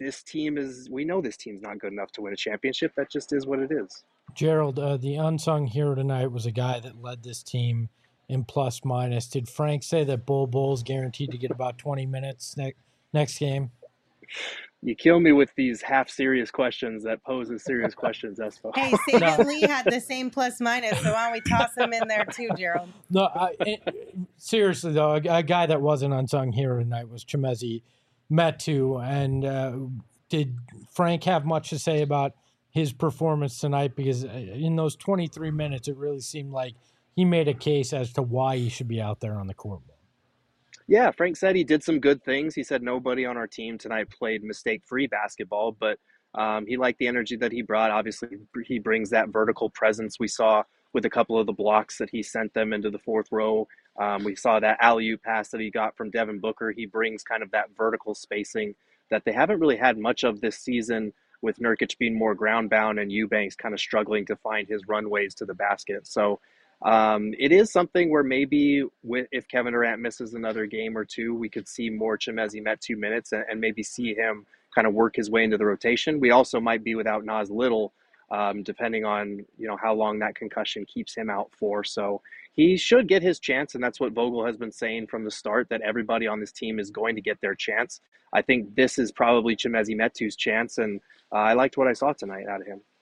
[SPEAKER 9] we know this team's not good enough to win a championship. That just is what it is.
[SPEAKER 2] Gerald, the unsung hero tonight was a guy that led this team in plus minus. Did Frank say that Bull's guaranteed to get about 20 minutes next game?
[SPEAKER 9] You kill me with these half-serious questions that poses serious questions, Espo.
[SPEAKER 1] Hey, Sagan Lee had the same plus minus, so why don't we toss him in there too, Gerald?
[SPEAKER 2] No, seriously, though, a guy that was an unsung hero tonight was Chimezie Metu. And did Frank have much to say about his performance tonight? Because in those 23 minutes, it really seemed like he made a case as to why he should be out there on the court.
[SPEAKER 9] Yeah, Frank said he did some good things. He said nobody on our team tonight played mistake-free basketball, but he liked the energy that he brought. Obviously, he brings that vertical presence we saw with a couple of the blocks that he sent them into the fourth row. We saw that alley-oop pass that he got from Devin Booker. He brings kind of that vertical spacing that they haven't really had much of this season, with Nurkic being more ground-bound and Eubanks kind of struggling to find his runways to the basket. So it is something where maybe if Kevin Durant misses another game or two, we could see more Chimezie Metu minutes and maybe see him kind of work his way into the rotation. We also might be without Nas Little, depending on how long that concussion keeps him out for. So he should get his chance, and that's what Vogel has been saying from the start, that everybody on this team is going to get their chance. I think this is probably Chimezie Metu's chance, and I liked what I saw tonight out of him.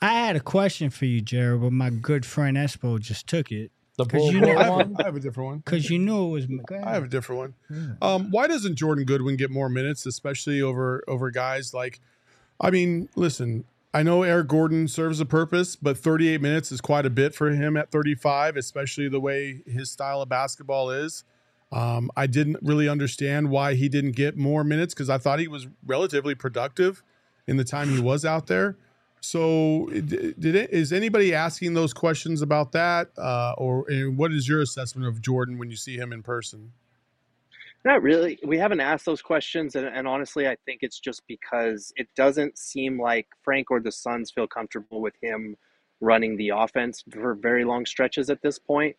[SPEAKER 5] I had a question for you, Jared, but my good friend Espo just took it.
[SPEAKER 2] The
[SPEAKER 5] Because
[SPEAKER 2] bull one.
[SPEAKER 3] I have a different one.
[SPEAKER 5] Because you knew it was. Go ahead.
[SPEAKER 3] I have a different one. Why doesn't Jordan Goodwin get more minutes, especially over guys like? I mean, listen. I know Eric Gordon serves a purpose, but 38 minutes is quite a bit for him at 35, especially the way his style of basketball is. I didn't really understand why he didn't get more minutes because I thought he was relatively productive in the time he was out there. So is anybody asking those questions about that? Or what is your assessment of Jordan when you see him in person?
[SPEAKER 9] Not really. We haven't asked those questions, and honestly, I think it's just because it doesn't seem like Frank or the Suns feel comfortable with him running the offense for very long stretches at this point.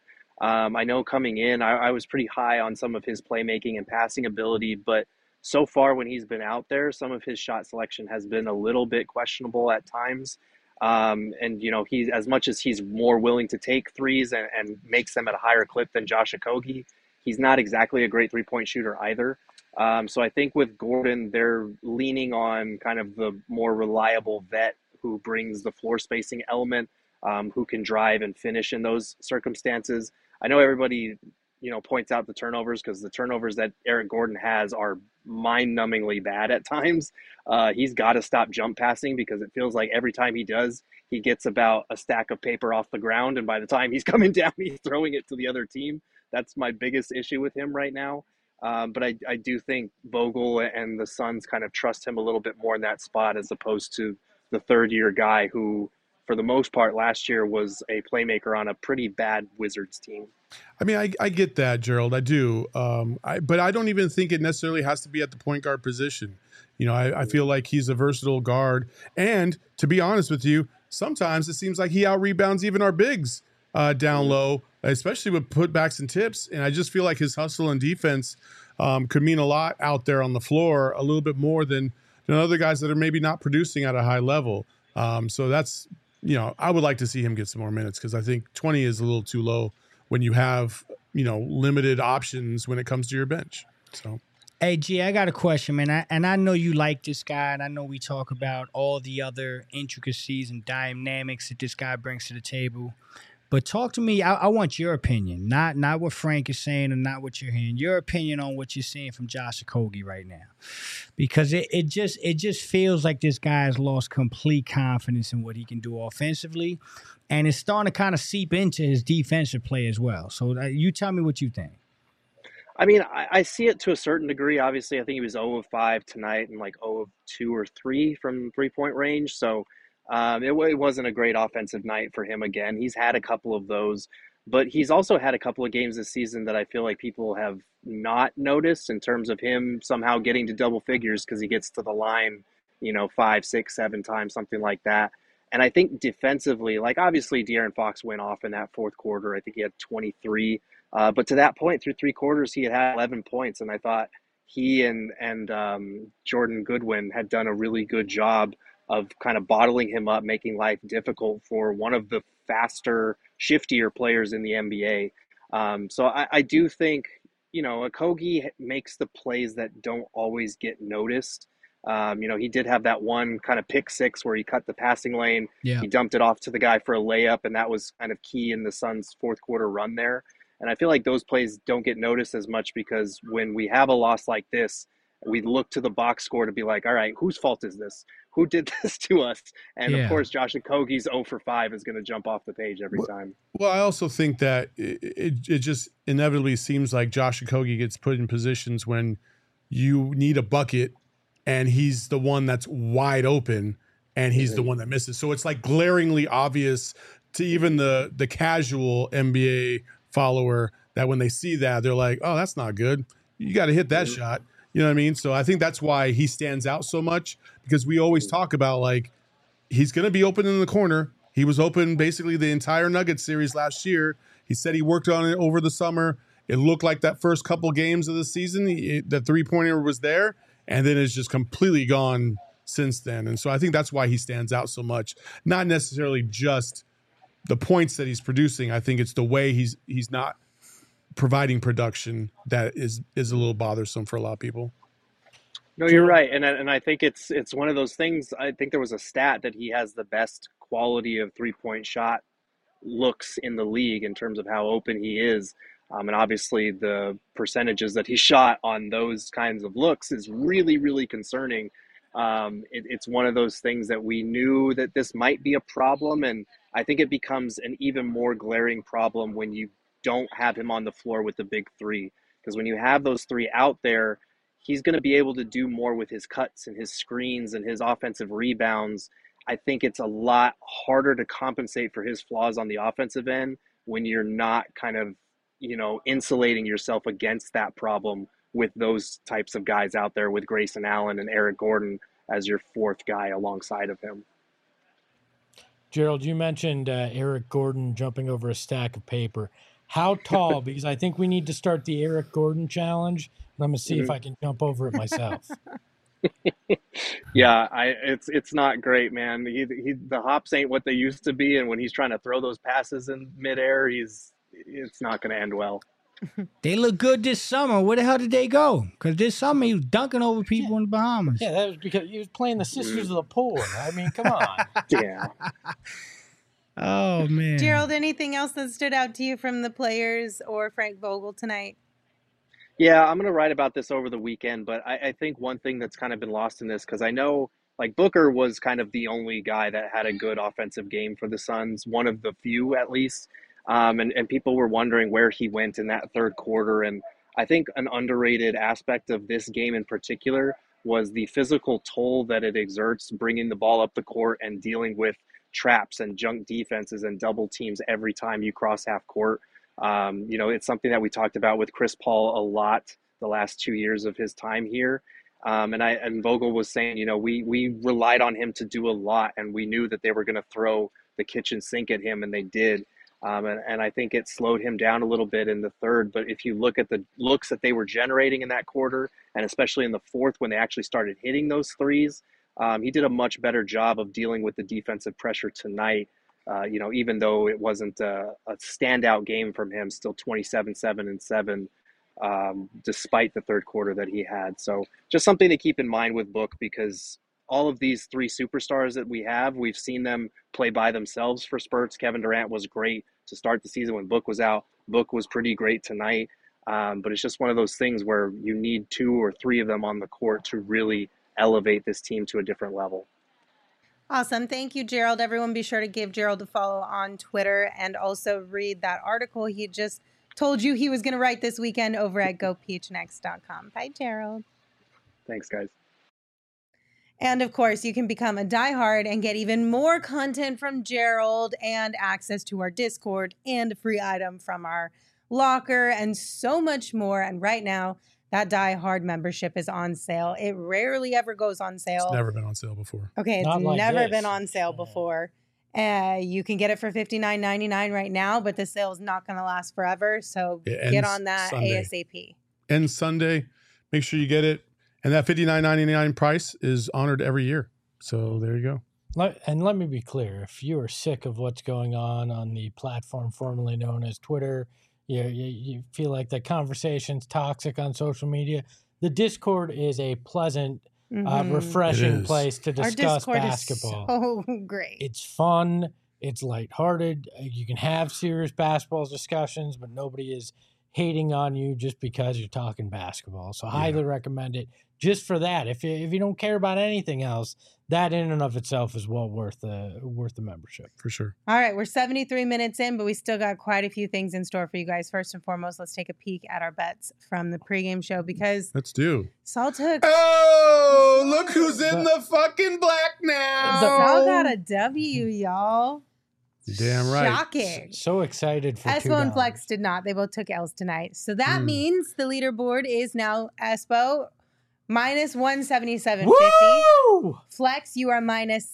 [SPEAKER 9] I know coming in, I was pretty high on some of his playmaking and passing ability, but so far when he's been out there, some of his shot selection has been a little bit questionable at times. And, you know, he's as much as he's more willing to take threes and makes them at a higher clip than Josh Okogie, he's not exactly a great three-point shooter either. So I think with Gordon, they're leaning on kind of the more reliable vet who brings the floor spacing element, who can drive and finish in those circumstances. I know everybody, you know, points out the turnovers because the turnovers that Eric Gordon has are mind-numbingly bad at times. He's got to stop jump passing because it feels like every time he does, he gets about a stack of paper off the ground, and by the time he's coming down, he's throwing it to the other team. That's my biggest issue with him right now. But I do think Vogel and the Suns kind of trust him a little bit more in that spot as opposed to the third-year guy who, for the most part, last year was a playmaker on a pretty bad Wizards team.
[SPEAKER 3] I mean, I get that, Gerald. I do. But I don't even think it necessarily has to be at the point guard position. You know, I feel like he's a versatile guard. And to be honest with you, sometimes it seems like he out-rebounds even our bigs down low, especially with putbacks and tips. And I just feel like his hustle and defense could mean a lot out there on the floor, a little bit more than other guys that are maybe not producing at a high level. So that's, you know, I would like to see him get some more minutes because I think 20 is a little too low when you have, you know, limited options when it comes to your bench. So,
[SPEAKER 5] hey, G, I got a question, man. I know you like this guy, and I know we talk about all the other intricacies and dynamics that this guy brings to the table. But talk to me. I want your opinion, not what Frank is saying and not what you're hearing. Your opinion on what you're seeing from Josh Okogie right now, because it just feels like this guy has lost complete confidence in what he can do offensively, and it's starting to kind of seep into his defensive play as well. So you tell me what you think.
[SPEAKER 9] I mean, I see it to a certain degree. Obviously, I think he was 0 of 5 tonight and like 0 of 2 or 3 from three-point range. So it wasn't a great offensive night for him again. He's had a couple of those, but he's also had a couple of games this season that I feel like people have not noticed in terms of him somehow getting to double figures because he gets to the line, you know, 5, 6, 7 times, something like that. And I think defensively, like obviously De'Aaron Fox went off in that fourth quarter. I think he had 23. But to that point, through 3 quarters, he had 11 points. And I thought he and Jordan Goodwin had done a really good job of kind of bottling him up, making life difficult for one of the faster, shiftier players in the NBA. So I do think, you know, Okogie makes the plays that don't always get noticed. You know, he did have that one kind of pick six where he cut the passing lane.
[SPEAKER 5] Yeah.
[SPEAKER 9] He dumped it off to the guy for a layup, and that was kind of key in the Suns' fourth quarter run there. And I feel like those plays don't get noticed as much because when we have a loss like this, we look to the box score to be like, all right, whose fault is this? Who did this to us? And of course, Josh Okogie's 0 for 5 is going to jump off the page every time.
[SPEAKER 3] Well, I also think that it just inevitably seems like Josh Okogie gets put in positions when you need a bucket and he's the one that's wide open and he's the one that misses. So it's like glaringly obvious to even the casual NBA follower that when they see that, they're like, oh, that's not good. You got to hit that shot. You know what I mean? So I think that's why he stands out so much because we always talk about like he's going to be open in the corner. He was open basically the entire Nuggets series last year. He said he worked on it over the summer. It looked like that first couple games of the season, the three-pointer was there, and then it's just completely gone since then. And so I think that's why he stands out so much. Not necessarily just the points that he's producing. I think it's the way he's not providing production that is a little bothersome for a lot of people.
[SPEAKER 9] No, you're right, and I think it's one of those things. I think there was a stat that he has the best quality of three-point shot looks in the league in terms of how open he is. And obviously the percentages that he shot on those kinds of looks is really, really concerning. It's one of those things that we knew that this might be a problem. And I think it becomes an even more glaring problem when you don't have him on the floor with the big three. Because when you have those three out there, he's going to be able to do more with his cuts and his screens and his offensive rebounds. I think it's a lot harder to compensate for his flaws on the offensive end when you're not kind of, insulating yourself against that problem with those types of guys out there with Grayson Allen and Eric Gordon as your fourth guy alongside of him.
[SPEAKER 2] Gerald, you mentioned Eric Gordon jumping over a stack of paper. How tall? Because I think we need to start the Eric Gordon challenge. And I'm going to see if I can jump over it myself.
[SPEAKER 9] Yeah, it's not great, man. The hops ain't what they used to be, and when he's trying to throw those passes in midair, it's not going to end well.
[SPEAKER 5] They look good this summer. Where the hell did they go? Because this summer he was dunking over people in the Bahamas.
[SPEAKER 2] Yeah, that was because he was playing the Sisters of the Poor. I mean, come on.
[SPEAKER 9] Yeah.
[SPEAKER 5] Oh, man.
[SPEAKER 1] Gerald, anything else that stood out to you from the players or Frank Vogel tonight?
[SPEAKER 9] Yeah, I'm going to write about this over the weekend, but I think one thing that's kind of been lost in this, because I know like Booker was kind of the only guy that had a good offensive game for the Suns, one of the few at least. And people were wondering where he went in that third quarter. And I think an underrated aspect of this game in particular was the physical toll that it exerts bringing the ball up the court and dealing with traps and junk defenses and double teams every time you cross half court. It's something that we talked about with Chris Paul a lot the last 2 years of his time here. And Vogel was saying, we relied on him to do a lot, and we knew that they were going to throw the kitchen sink at him, and they did. And I think it slowed him down a little bit in the third. But if you look at the looks that they were generating in that quarter, and especially in the fourth when they actually started hitting those threes, he did a much better job of dealing with the defensive pressure tonight. Even though it wasn't a standout game from him, still 27, 7, and 7, despite the third quarter that he had. So just something to keep in mind with Book, because all of these three superstars that we've seen them play by themselves for spurts. Kevin Durant was great to start the season when Book was out. Book was pretty great tonight. But it's just one of those things where you need 2 or 3 of them on the court to really elevate this team to a different level.
[SPEAKER 1] Awesome. Thank you, Gerald. Everyone be sure to give Gerald a follow on Twitter and also read that article he just told you he was going to write this weekend over at gophnx.com. Bye, Gerald.
[SPEAKER 9] Thanks, guys.
[SPEAKER 1] And of course, you can become a diehard and get even more content from Gerald and access to our Discord and a free item from our locker and so much more. And right now, that diehard membership is on sale. It rarely ever goes on sale.
[SPEAKER 3] It's never been on sale before.
[SPEAKER 1] Okay, it's
[SPEAKER 2] Not like
[SPEAKER 1] never
[SPEAKER 2] this.
[SPEAKER 1] been on sale before. You can get it for $59.99 right now, but the sale is not going to last forever. So
[SPEAKER 3] It
[SPEAKER 1] get
[SPEAKER 3] ends
[SPEAKER 1] on that
[SPEAKER 3] Sunday.
[SPEAKER 1] ASAP.
[SPEAKER 3] And Sunday, make sure you get it. And that $59.99 price is honored every year. So there you go.
[SPEAKER 2] And let me be clear. If you are sick of what's going on the platform formerly known as Twitter, you feel like the conversation's toxic on social media, the Discord is a pleasant, refreshing
[SPEAKER 3] It is.
[SPEAKER 2] place to
[SPEAKER 1] Our
[SPEAKER 2] discuss
[SPEAKER 1] Discord
[SPEAKER 2] basketball.
[SPEAKER 1] is so great.
[SPEAKER 2] It's fun. It's lighthearted. You can have serious basketball discussions, but nobody is hating on you just because you're talking basketball. So highly recommend it just for that. If you don't care about anything else, that in and of itself is well worth the membership.
[SPEAKER 3] For sure.
[SPEAKER 1] All right, we're 73 minutes in, but we still got quite a few things in store for you guys. First and foremost, let's take a peek at our bets from the pregame show because
[SPEAKER 3] Let's do.
[SPEAKER 1] Saul took
[SPEAKER 3] Oh, look who's in the fucking black now.
[SPEAKER 1] Saul got a W, y'all.
[SPEAKER 3] Damn right.
[SPEAKER 1] Shocking.
[SPEAKER 2] So excited for
[SPEAKER 1] Espo and
[SPEAKER 2] $2.
[SPEAKER 1] Flex did not. They both took L's tonight. So that means the leaderboard is now Espo minus 177.50.
[SPEAKER 2] Woo!
[SPEAKER 1] Flex, you are minus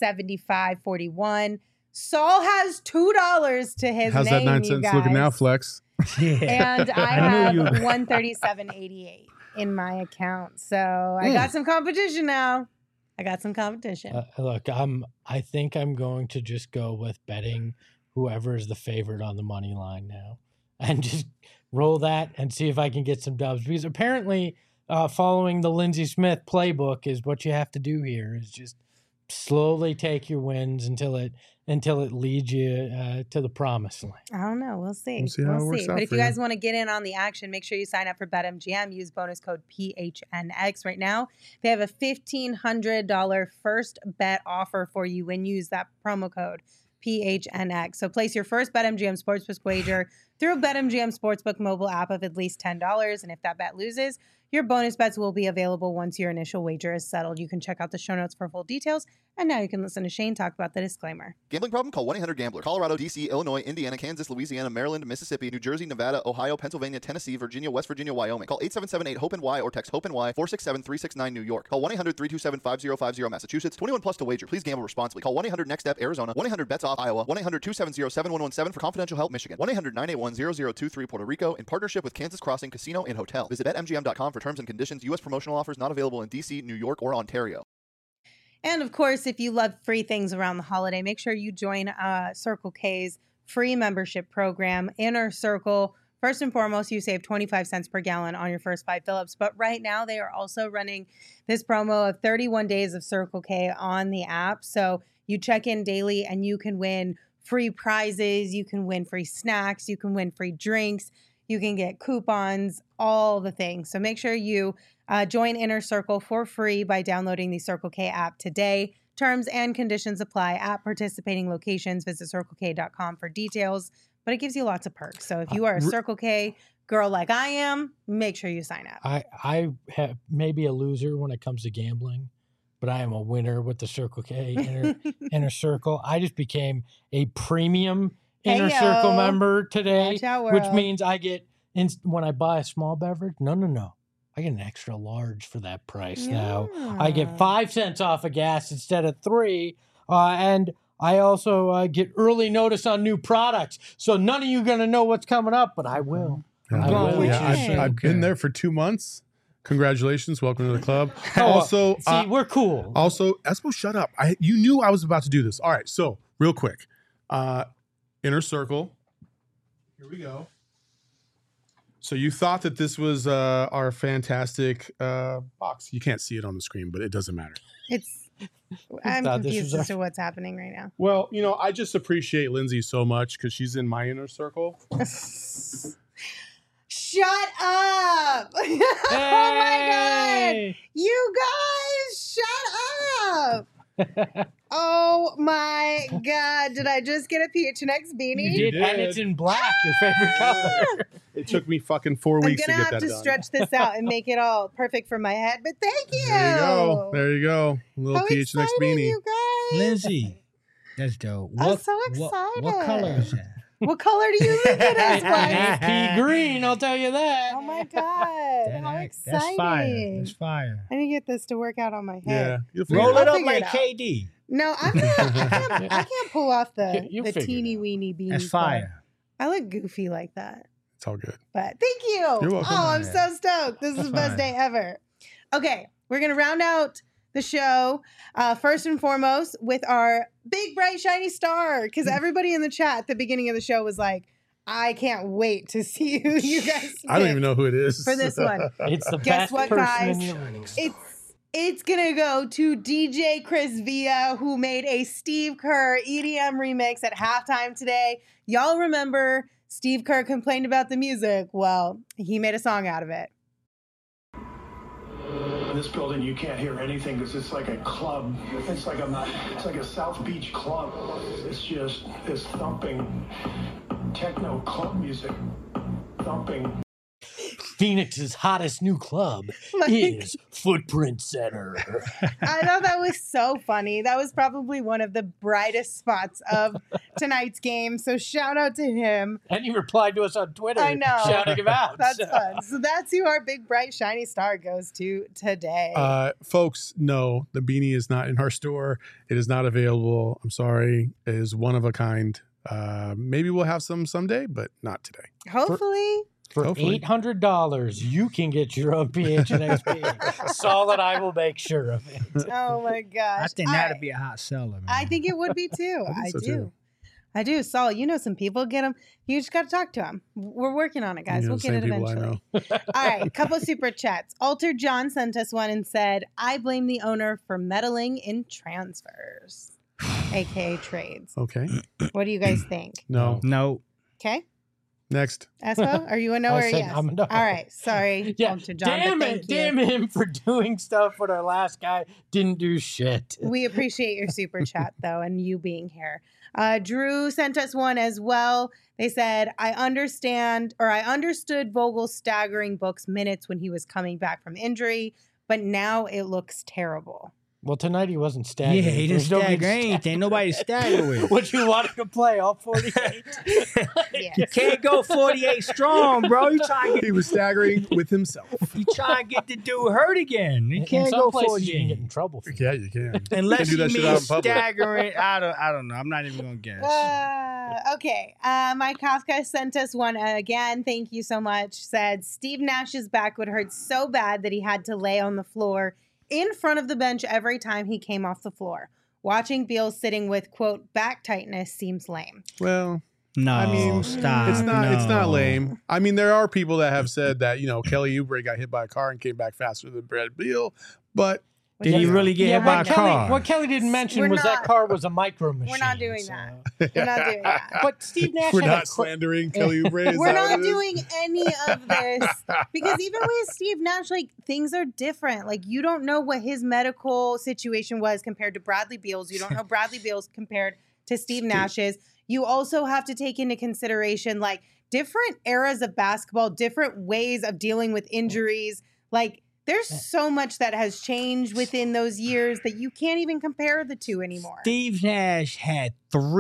[SPEAKER 1] 75.41. Saul has $2 to his
[SPEAKER 3] How's
[SPEAKER 1] name,
[SPEAKER 3] that 9
[SPEAKER 1] you
[SPEAKER 3] cents
[SPEAKER 1] guys.
[SPEAKER 3] looking now, Flex?
[SPEAKER 1] And I
[SPEAKER 2] I knew
[SPEAKER 1] have
[SPEAKER 2] you-
[SPEAKER 1] 137.88 in my account. So I got some competition now. I got some competition.
[SPEAKER 2] Look, I think I'm going to just go with betting whoever is the favorite on the money line now, and just roll that and see if I can get some dubs. Because apparently, following the Lindsey Smith playbook is what you have to do here. Is just slowly take your wins until it leads you to the promised land.
[SPEAKER 1] I don't know. We'll see.
[SPEAKER 3] We'll see how it works out
[SPEAKER 1] But if
[SPEAKER 3] for
[SPEAKER 1] you
[SPEAKER 3] you.
[SPEAKER 1] guys want to get in on the action, make sure you sign up for BetMGM. Use bonus code PHNX right now. They have a $1,500 first bet offer for you when you use that promo code PHNX. So place your first BetMGM Sportsbook wager through a BetMGM Sportsbook mobile app of at least $10. And if that bet loses, your bonus bets will be available once your initial wager is settled. You can check out the show notes for full details. And now you can listen to Shane talk about the disclaimer.
[SPEAKER 10] Gambling problem? Call 1-800-GAMBLER. Colorado, D.C., Illinois, Indiana, Kansas, Louisiana, Maryland, Mississippi, New Jersey, Nevada, Ohio, Pennsylvania, Tennessee, Virginia, West Virginia, Wyoming. Call 877-8-HOPE-NY or text HOPE-NY 467-369 New York. Call 1-800-327-5050 Massachusetts. 21 plus to wager. Please gamble responsibly. Call 1-800-NEXT-STEP Arizona. 1-800-BETS-OFF Iowa. 1-800-270-7117 for confidential help Michigan. 1-800-981-0023 Puerto Rico in partnership with Kansas Crossing Casino and Hotel. Visit BetMGM.com for terms and conditions. U.S. promotional offers not available in D.C., New York, or Ontario.
[SPEAKER 1] And of course, if you love free things around the holiday, make sure you join Circle K's free membership program, Inner Circle. First and foremost, you save 25 cents per gallon on your first 5 fill-ups. But right now, they are also running this promo of 31 days of Circle K on the app. So you check in daily and you can win free prizes. You can win free snacks. You can win free drinks. You can get coupons, all the things. So make sure you join Inner Circle for free by downloading the Circle K app today. Terms and conditions apply at participating locations. Visit CircleK.com for details, but it gives you lots of perks. So if you are a Circle K girl like I am, make sure you sign up.
[SPEAKER 2] I have maybe a loser when it comes to gambling, but I am a winner with the Circle K Inner Circle. I just became a premium Inner Circle member today,
[SPEAKER 1] Watch out,
[SPEAKER 2] which
[SPEAKER 1] world.
[SPEAKER 2] means I get, when I buy a small beverage, no. I get an extra large for that price now. I get 5 cents off of gas instead of 3. And I also get early notice on new products. So none of you are going to know what's coming up, but I will.
[SPEAKER 3] I've been there for 2 months. Congratulations. Welcome to the club.
[SPEAKER 2] Oh,
[SPEAKER 3] Also,
[SPEAKER 2] see, we're cool.
[SPEAKER 3] Also, Espo, shut up. You knew I was about to do this. All right. So real quick, Inner Circle. Here we go. So you thought that this was our fantastic box. You can't see it on the screen, but it doesn't matter.
[SPEAKER 1] I'm
[SPEAKER 2] thought this
[SPEAKER 1] confused
[SPEAKER 2] was
[SPEAKER 1] as to what's happening right now.
[SPEAKER 3] Well, I just appreciate Lindsay so much because she's in my Inner Circle.
[SPEAKER 1] Shut up! Oh my God! You guys, shut up! Oh my God! Did I just get a PHNX beanie?
[SPEAKER 2] You did, and it's in black, your favorite color.
[SPEAKER 3] It took me fucking 4 weeks to
[SPEAKER 1] I'm
[SPEAKER 3] get
[SPEAKER 1] gonna
[SPEAKER 3] that
[SPEAKER 1] have to
[SPEAKER 3] done.
[SPEAKER 1] stretch this out and make it all perfect for my head. But thank you.
[SPEAKER 3] There you go. There you go. A little
[SPEAKER 1] How
[SPEAKER 3] PHNX
[SPEAKER 1] exciting,
[SPEAKER 3] beanie.
[SPEAKER 1] you guys!
[SPEAKER 5] Lindsay, that's dope.
[SPEAKER 1] I'm so excited.
[SPEAKER 5] What color is that?
[SPEAKER 1] What color do you think it is, Bryce?
[SPEAKER 2] Pea green, I'll tell you that.
[SPEAKER 1] Oh my God! How exciting!
[SPEAKER 5] That's fire. That's fire.
[SPEAKER 1] I need to get this to work out on my
[SPEAKER 3] Yeah.
[SPEAKER 1] head.
[SPEAKER 3] You'll figure
[SPEAKER 5] Roll
[SPEAKER 3] it
[SPEAKER 5] it
[SPEAKER 3] out.
[SPEAKER 5] up
[SPEAKER 1] figure it
[SPEAKER 5] like
[SPEAKER 1] out.
[SPEAKER 5] KD.
[SPEAKER 1] No, I can't pull off the
[SPEAKER 2] You'll figure
[SPEAKER 1] teeny
[SPEAKER 2] it out.
[SPEAKER 1] weeny beanie.
[SPEAKER 5] That's fire.
[SPEAKER 1] I look goofy like that.
[SPEAKER 3] It's all good.
[SPEAKER 1] But thank you.
[SPEAKER 3] You're welcome.
[SPEAKER 1] Oh, I'm so stoked. This is the best day ever. Okay, we're going to round out the show first and foremost with our big, bright, shiny star. Because everybody in the chat at the beginning of the show was like, I can't wait to see who you guys
[SPEAKER 3] I don't
[SPEAKER 1] pick
[SPEAKER 3] even know who it is.
[SPEAKER 1] for this one.
[SPEAKER 2] It's the
[SPEAKER 1] Guess
[SPEAKER 2] best
[SPEAKER 1] what,
[SPEAKER 2] person
[SPEAKER 1] guys?
[SPEAKER 2] in your league.
[SPEAKER 1] It's gonna go to DJ Chris Villa, who made a Steve Kerr EDM remix at halftime today. Y'all remember Steve Kerr complained about the music? Well, he made a song out of it.
[SPEAKER 11] In this building, you can't hear anything because it's like a club. It's like a South Beach club. It's just this thumping techno club music. Thumping.
[SPEAKER 2] Phoenix's hottest new club is Footprint Center.
[SPEAKER 1] I thought that was so funny. That was probably one of the brightest spots of tonight's game. So shout out to him.
[SPEAKER 2] And he replied to us on Twitter,
[SPEAKER 1] I know.
[SPEAKER 2] shouting him out.
[SPEAKER 1] That's fun. So that's who our big, bright, shiny star goes to today.
[SPEAKER 3] Folks, no, the beanie is not in our store. It is not available. I'm sorry. It is one of a kind. Maybe we'll have some someday, but not today.
[SPEAKER 1] Hopefully.
[SPEAKER 2] For $800, you can get your own PHNX. Solid, I will make sure of it.
[SPEAKER 1] Oh my gosh.
[SPEAKER 5] I think that'd be a hot seller, man.
[SPEAKER 1] I think it would be too. I
[SPEAKER 3] so
[SPEAKER 1] do.
[SPEAKER 3] too.
[SPEAKER 1] I do. Saul, you know some people. Get them. You just got to talk to them. We're working on it, guys.
[SPEAKER 3] You know,
[SPEAKER 1] We'll get it
[SPEAKER 3] same people I
[SPEAKER 1] eventually.
[SPEAKER 3] know.
[SPEAKER 1] All right, couple super chats. Alter John sent us one and said, I blame the owner for meddling in transfers, aka trades.
[SPEAKER 3] Okay.
[SPEAKER 1] What do you guys think?
[SPEAKER 3] No.
[SPEAKER 5] No.
[SPEAKER 1] Okay.
[SPEAKER 3] Next.
[SPEAKER 1] Espo, are you a no
[SPEAKER 2] I
[SPEAKER 1] or a
[SPEAKER 2] said
[SPEAKER 1] yes?
[SPEAKER 2] I'm a no.
[SPEAKER 1] All right. Sorry,
[SPEAKER 2] Yeah,
[SPEAKER 1] Alter John.
[SPEAKER 2] damn
[SPEAKER 1] but
[SPEAKER 2] it.
[SPEAKER 1] thank you.
[SPEAKER 2] Damn him for doing stuff when our last guy didn't do shit.
[SPEAKER 1] We appreciate your super chat, though, and you being here. Drew sent us one as well. They said, I understood Vogel staggering Book's minutes when he was coming back from injury, but now it looks terrible.
[SPEAKER 2] Well, tonight he wasn't staggering.
[SPEAKER 5] Yeah, he didn't
[SPEAKER 2] There's nobody
[SPEAKER 5] stagger anything. Nobody stagger with.
[SPEAKER 2] What you wanted to play, all 48?
[SPEAKER 5] You can't go 48 strong, bro. You trying to
[SPEAKER 3] He was staggering with himself.
[SPEAKER 5] to get the dude hurt again. You
[SPEAKER 2] In
[SPEAKER 5] can't
[SPEAKER 2] some
[SPEAKER 5] go
[SPEAKER 2] places you can get
[SPEAKER 5] 48.
[SPEAKER 2] in trouble for
[SPEAKER 3] Yeah, you can.
[SPEAKER 5] Unless
[SPEAKER 3] do
[SPEAKER 5] you
[SPEAKER 3] that shit
[SPEAKER 5] mean
[SPEAKER 3] out in public.
[SPEAKER 5] staggering. I don't know. I'm not even gonna guess.
[SPEAKER 1] Okay. Mike Kafka sent us one again. Thank you so much. Said Steve Nash's back would hurt so bad that he had to lay on the floor in front of the bench every time he came off the floor. Watching Beal sitting with, quote, back tightness seems lame.
[SPEAKER 3] Well,
[SPEAKER 5] No,
[SPEAKER 3] I mean,
[SPEAKER 5] stop.
[SPEAKER 3] it's not
[SPEAKER 5] no.
[SPEAKER 3] lame. I mean, there are people that have said that, Kelly Oubre got hit by a car and came back faster than Brad Beal, but
[SPEAKER 5] Did he really get hit by a car?
[SPEAKER 2] What Kelly didn't mention
[SPEAKER 1] We're
[SPEAKER 2] was
[SPEAKER 1] not-
[SPEAKER 2] that car was a micro machine.
[SPEAKER 1] We're not doing that. We're not doing that.
[SPEAKER 2] But Steve Nash
[SPEAKER 3] we're
[SPEAKER 2] had a
[SPEAKER 3] not slandering Kelly Oubre. Is
[SPEAKER 1] We're
[SPEAKER 3] that
[SPEAKER 1] not
[SPEAKER 3] what it is?
[SPEAKER 1] doing any of this because even with Steve Nash, like things are different. Like you don't know what his medical situation was compared to Bradley Beal's. You don't know Bradley Beal's compared to Steve Nash's. You also have to take into consideration like different eras of basketball, different ways of dealing with injuries. Like there's so much that has changed within those years that you can't even compare the two anymore.
[SPEAKER 5] Steve Nash had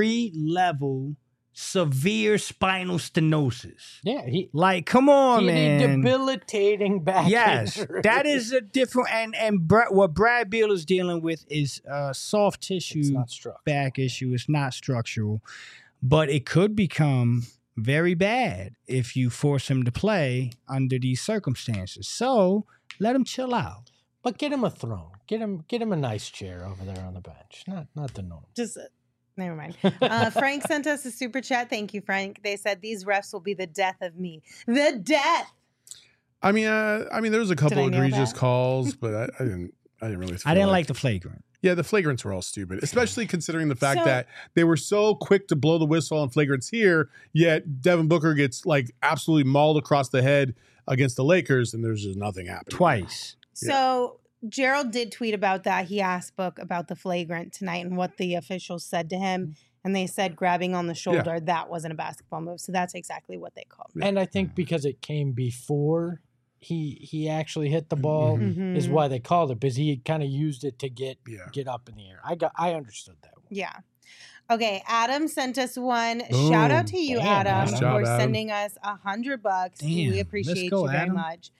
[SPEAKER 5] 3-level severe spinal stenosis.
[SPEAKER 2] Yeah,
[SPEAKER 5] Like, come on,
[SPEAKER 2] he had a
[SPEAKER 5] man.
[SPEAKER 2] debilitating back
[SPEAKER 5] Yes,
[SPEAKER 2] injury.
[SPEAKER 5] that is a different what Brad Beal is dealing with is soft tissue
[SPEAKER 2] It's not structural.
[SPEAKER 5] back issue. It's not structural, but it could become very bad if you force him to play under these circumstances. So let him chill out.
[SPEAKER 2] But get him a throne. Get him a nice chair over there on the bench. Not the norm.
[SPEAKER 1] Just never mind. Frank sent us a super chat. Thank you, Frank. They said these refs will be the death of me. The death.
[SPEAKER 3] I mean, there was a couple
[SPEAKER 1] Did I nail
[SPEAKER 3] egregious
[SPEAKER 1] that?
[SPEAKER 3] calls, but I didn't really.
[SPEAKER 5] I didn't like the flagrant.
[SPEAKER 3] Yeah, the flagrants were all stupid, especially considering the fact
[SPEAKER 1] So-
[SPEAKER 3] that they were so quick to blow the whistle on flagrants here, yet Devin Booker gets like absolutely mauled across the head against the Lakers, and there's just nothing happening.
[SPEAKER 5] Twice.
[SPEAKER 1] So Gerald did tweet about that. He asked Book about the flagrant tonight and what the officials said to him. And they said grabbing on the shoulder, that wasn't a basketball move. So that's exactly what they called it.
[SPEAKER 2] And I think because it came before he actually hit the ball is
[SPEAKER 1] Mhm.
[SPEAKER 2] why they called it, because he kind of used it to get up in the air. I understood that one.
[SPEAKER 1] Yeah. Okay, Adam sent us one.
[SPEAKER 3] Boom.
[SPEAKER 1] Shout out to you,
[SPEAKER 2] Damn,
[SPEAKER 1] Adam,
[SPEAKER 3] nice job,
[SPEAKER 1] for
[SPEAKER 3] Adam.
[SPEAKER 1] sending us $100.
[SPEAKER 5] Damn,
[SPEAKER 1] We
[SPEAKER 5] let's
[SPEAKER 1] appreciate
[SPEAKER 5] go,
[SPEAKER 1] you very
[SPEAKER 5] Adam.
[SPEAKER 1] much.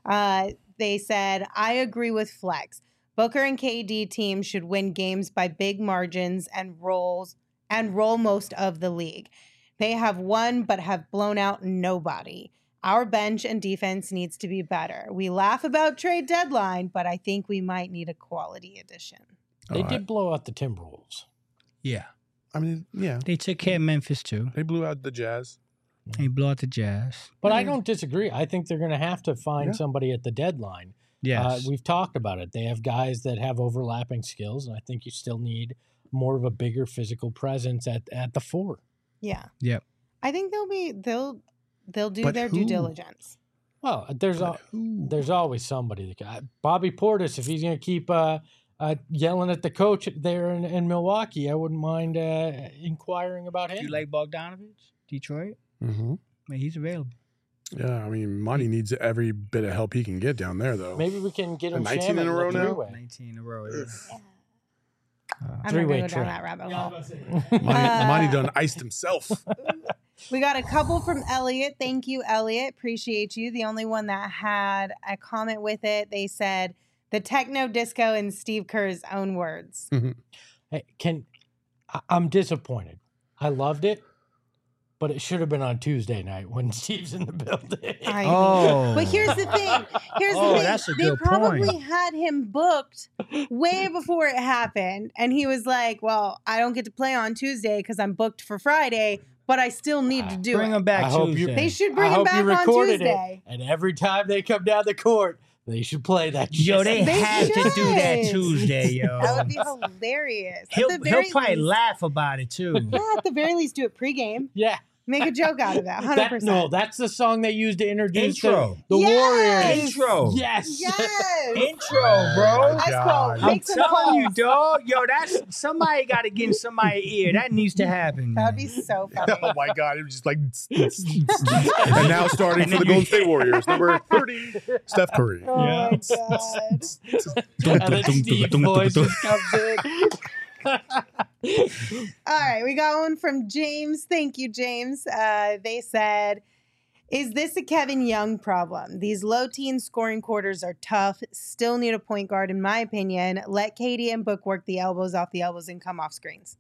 [SPEAKER 1] They said, I agree with Flex. Booker and KD teams should win games by big margins and roll most of the league. They have won but have blown out nobody. Our bench and defense needs to be better. We laugh about trade deadline, but I think we might need a quality addition.
[SPEAKER 2] They
[SPEAKER 3] Oh,
[SPEAKER 2] did blow out the Timberwolves.
[SPEAKER 5] Yeah.
[SPEAKER 3] I mean, yeah,
[SPEAKER 5] They took care of Memphis, too.
[SPEAKER 3] they blew out the Jazz.
[SPEAKER 5] They blew out the Jazz.
[SPEAKER 2] But I don't disagree. I think they're going to have to find
[SPEAKER 3] Yeah.
[SPEAKER 2] somebody at the deadline.
[SPEAKER 5] Yes.
[SPEAKER 2] We've talked about it. They have guys that have overlapping skills, and I think you still need more of a bigger physical presence at the 4.
[SPEAKER 1] Yeah.
[SPEAKER 5] Yep.
[SPEAKER 1] I think they'll do
[SPEAKER 3] But
[SPEAKER 1] their due
[SPEAKER 3] who?
[SPEAKER 1] diligence.
[SPEAKER 2] Well, there's always somebody. Bobby Portis, if he's going to keep yelling at the coach there in Milwaukee, I wouldn't mind inquiring about him.
[SPEAKER 5] You like Bogdanovich, Detroit?
[SPEAKER 3] Mm-hmm.
[SPEAKER 5] Man, he's available.
[SPEAKER 3] Yeah, I mean, Monty needs every bit of help he can get down there, though.
[SPEAKER 2] Maybe we can get him
[SPEAKER 3] 19 in a row now?
[SPEAKER 5] 19 in a row. Yeah.
[SPEAKER 1] I'm not
[SPEAKER 2] Three-way
[SPEAKER 1] going to go down
[SPEAKER 2] trap.
[SPEAKER 1] that rabbit hole.
[SPEAKER 3] Monty done iced himself.
[SPEAKER 1] We got a couple from Elliot. Thank you, Elliot. Appreciate you. The only one that had a comment with it, they said the techno disco in Steve Kerr's own words.
[SPEAKER 2] Hey, I'm disappointed. I loved it, but it should have been on Tuesday night when Steve's in the building.
[SPEAKER 1] But here's the thing.
[SPEAKER 5] That's a
[SPEAKER 1] They
[SPEAKER 5] good
[SPEAKER 1] probably
[SPEAKER 5] point.
[SPEAKER 1] had him booked way before it happened. And he was like, well, I don't get to play on Tuesday because I'm booked for Friday, but I still need to do
[SPEAKER 5] Bring
[SPEAKER 1] it.
[SPEAKER 5] him back Tuesday.
[SPEAKER 1] They should bring
[SPEAKER 2] I
[SPEAKER 1] him
[SPEAKER 2] hope
[SPEAKER 1] back
[SPEAKER 2] you
[SPEAKER 1] on
[SPEAKER 2] recorded
[SPEAKER 1] Tuesday.
[SPEAKER 2] it. And every time they come down the court, they should play that shit.
[SPEAKER 5] Yo, they have to do that
[SPEAKER 1] should.
[SPEAKER 5] Tuesday, yo.
[SPEAKER 1] That would be hilarious.
[SPEAKER 5] He'll
[SPEAKER 1] At the very
[SPEAKER 5] probably
[SPEAKER 1] least-
[SPEAKER 5] laugh about it too.
[SPEAKER 1] Yeah, at the very least, do it pregame.
[SPEAKER 2] Yeah.
[SPEAKER 1] Make a joke out of it. 100%.
[SPEAKER 2] No, that's the song they used to introduce
[SPEAKER 5] Intro.
[SPEAKER 2] the Warriors.
[SPEAKER 5] Intro.
[SPEAKER 2] Yes.
[SPEAKER 1] Yes.
[SPEAKER 5] Intro, bro.
[SPEAKER 1] Espo,
[SPEAKER 5] I'm
[SPEAKER 1] make some
[SPEAKER 5] telling you,
[SPEAKER 1] calls.
[SPEAKER 5] dog. Yo, that's somebody got to get in somebody's ear. That needs to happen.
[SPEAKER 1] That would
[SPEAKER 5] man.
[SPEAKER 1] be so funny.
[SPEAKER 3] Oh my God! It was just like, and now starting
[SPEAKER 5] And
[SPEAKER 3] for the
[SPEAKER 5] then
[SPEAKER 3] Golden
[SPEAKER 5] you-
[SPEAKER 3] State Warriors, number 30, Steph Curry.
[SPEAKER 1] Oh my God.
[SPEAKER 2] And then Steve voice just comes in.
[SPEAKER 1] All right, we got one from James. Thank you, James. They said, is this a Kevin Young problem? These low teen scoring quarters are tough. Still need a point guard, in my opinion. Let Katie and Book work the elbows off the elbows and come off screens.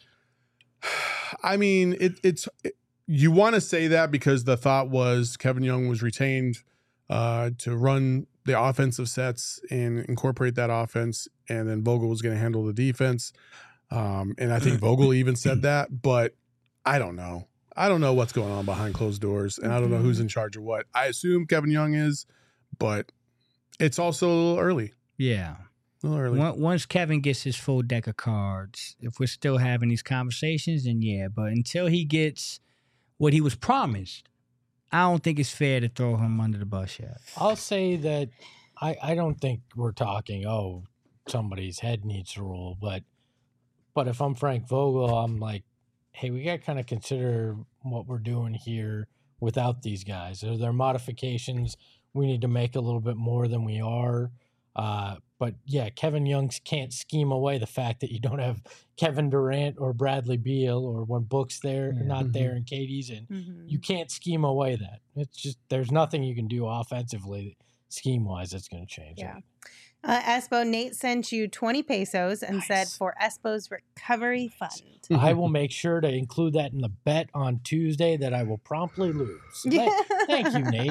[SPEAKER 3] I mean, you want to say that because the thought was Kevin Young was retained to run the offensive sets and incorporate that offense, and then Vogel was going to handle the defense. And I think Vogel even said that, but I don't know. I don't know what's going on behind closed doors, and I don't know who's in charge of what. I assume Kevin Young is, but it's also a little early.
[SPEAKER 5] Yeah.
[SPEAKER 3] A little early.
[SPEAKER 5] Once Kevin gets his full deck of cards, if we're still having these conversations, then yeah. But until he gets what he was promised, I don't think it's fair to throw him under the bus yet.
[SPEAKER 2] I'll say that I don't think we're talking, somebody's head needs to roll. But if I'm Frank Vogel, I'm like, hey, we got to kind of consider what we're doing here without these guys. Are there modifications we need to make a little bit more than we are? But yeah, Kevin Young can't scheme away the fact that you don't have Kevin Durant or Bradley Beal, or when Book's there, not there, and Katie's in. You can't scheme away that. It's just, there's nothing you can do offensively, scheme wise, that's going to change.
[SPEAKER 1] Yeah. Espo, Nate sent you 20 pesos and said for Espo's recovery fund.
[SPEAKER 2] I will make sure to include that in the bet on Tuesday that I will promptly lose. So thank you, Nate.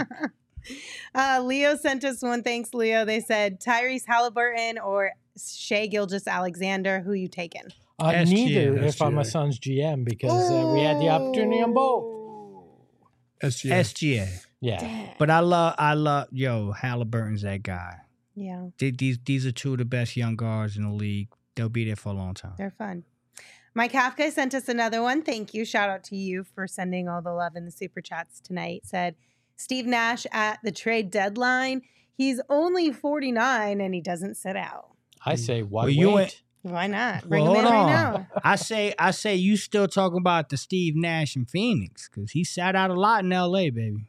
[SPEAKER 1] Leo sent us one. Thanks, Leo. They said Tyrese Halliburton or Shai Gilgeous-Alexander. Who you taking?
[SPEAKER 2] Neither, if I'm a Suns GM, because we had the opportunity on both.
[SPEAKER 3] SGA.
[SPEAKER 2] Yeah.
[SPEAKER 5] But I love, Halliburton's that guy.
[SPEAKER 1] Yeah.
[SPEAKER 5] These are two of the best young guards in the league. They'll be there for a long time.
[SPEAKER 1] They're fun. Mike Kafka sent us another one. Thank you. Shout out to you for sending all the love in the super chats tonight. Said Steve Nash at the trade deadline. He's only 49 and he doesn't sit out.
[SPEAKER 2] I say, why
[SPEAKER 5] Well, you
[SPEAKER 2] wait?
[SPEAKER 1] Why not? Bring
[SPEAKER 5] Well,
[SPEAKER 1] him in
[SPEAKER 5] hold
[SPEAKER 1] right
[SPEAKER 5] on.
[SPEAKER 1] now.
[SPEAKER 5] I say you still talking about the Steve Nash in Phoenix, because he sat out a lot in LA, baby.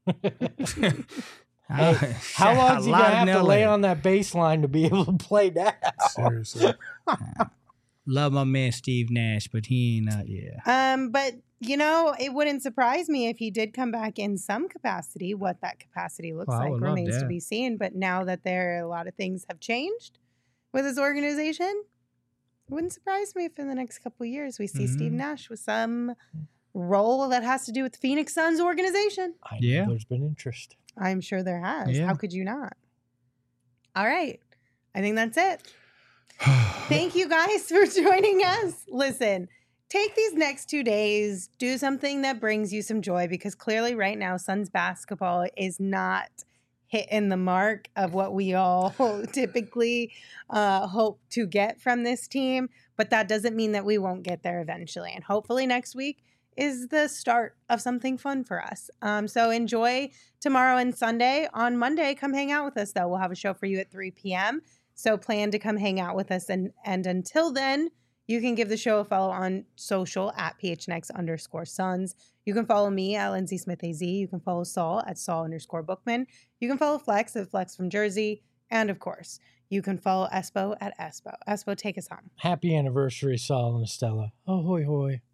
[SPEAKER 2] Hey, how long is he going to have to lay on that baseline to be able to play that?
[SPEAKER 3] Seriously.
[SPEAKER 5] Love my man Steve Nash, but he ain't out yet.
[SPEAKER 1] But it wouldn't surprise me if he did come back in some capacity. What that capacity looks
[SPEAKER 5] Well, I
[SPEAKER 1] like
[SPEAKER 5] would love
[SPEAKER 1] remains to
[SPEAKER 5] that.
[SPEAKER 1] be seen. But now that a lot of things have changed with his organization, it wouldn't surprise me if in the next couple of years we see Steve Nash with some role that has to do with the Phoenix Suns organization.
[SPEAKER 2] I know there's been interest.
[SPEAKER 1] I'm sure there has.
[SPEAKER 2] Yeah.
[SPEAKER 1] How could you not? All right. I think that's it. Thank you guys for joining us. Listen, take these next 2 days, do something that brings you some joy, because clearly right now Suns basketball is not hitting the mark of what we all typically hope to get from this team. But that doesn't mean that we won't get there eventually. And hopefully next week is the start of something fun for us. So enjoy tomorrow and Sunday. On Monday, come hang out with us, though. We'll have a show for you at 3 p.m. So plan to come hang out with us. And until then, you can give the show a follow on social at PHNX_Suns. You can follow me at Lindsay Smith AZ. You can follow Saul at Saul_Bookman. You can follow Flex at Flex from Jersey. And of course, you can follow Espo at Espo. Espo, take us home.
[SPEAKER 2] Happy anniversary, Saul and Estella. Oh, hoy, hoy.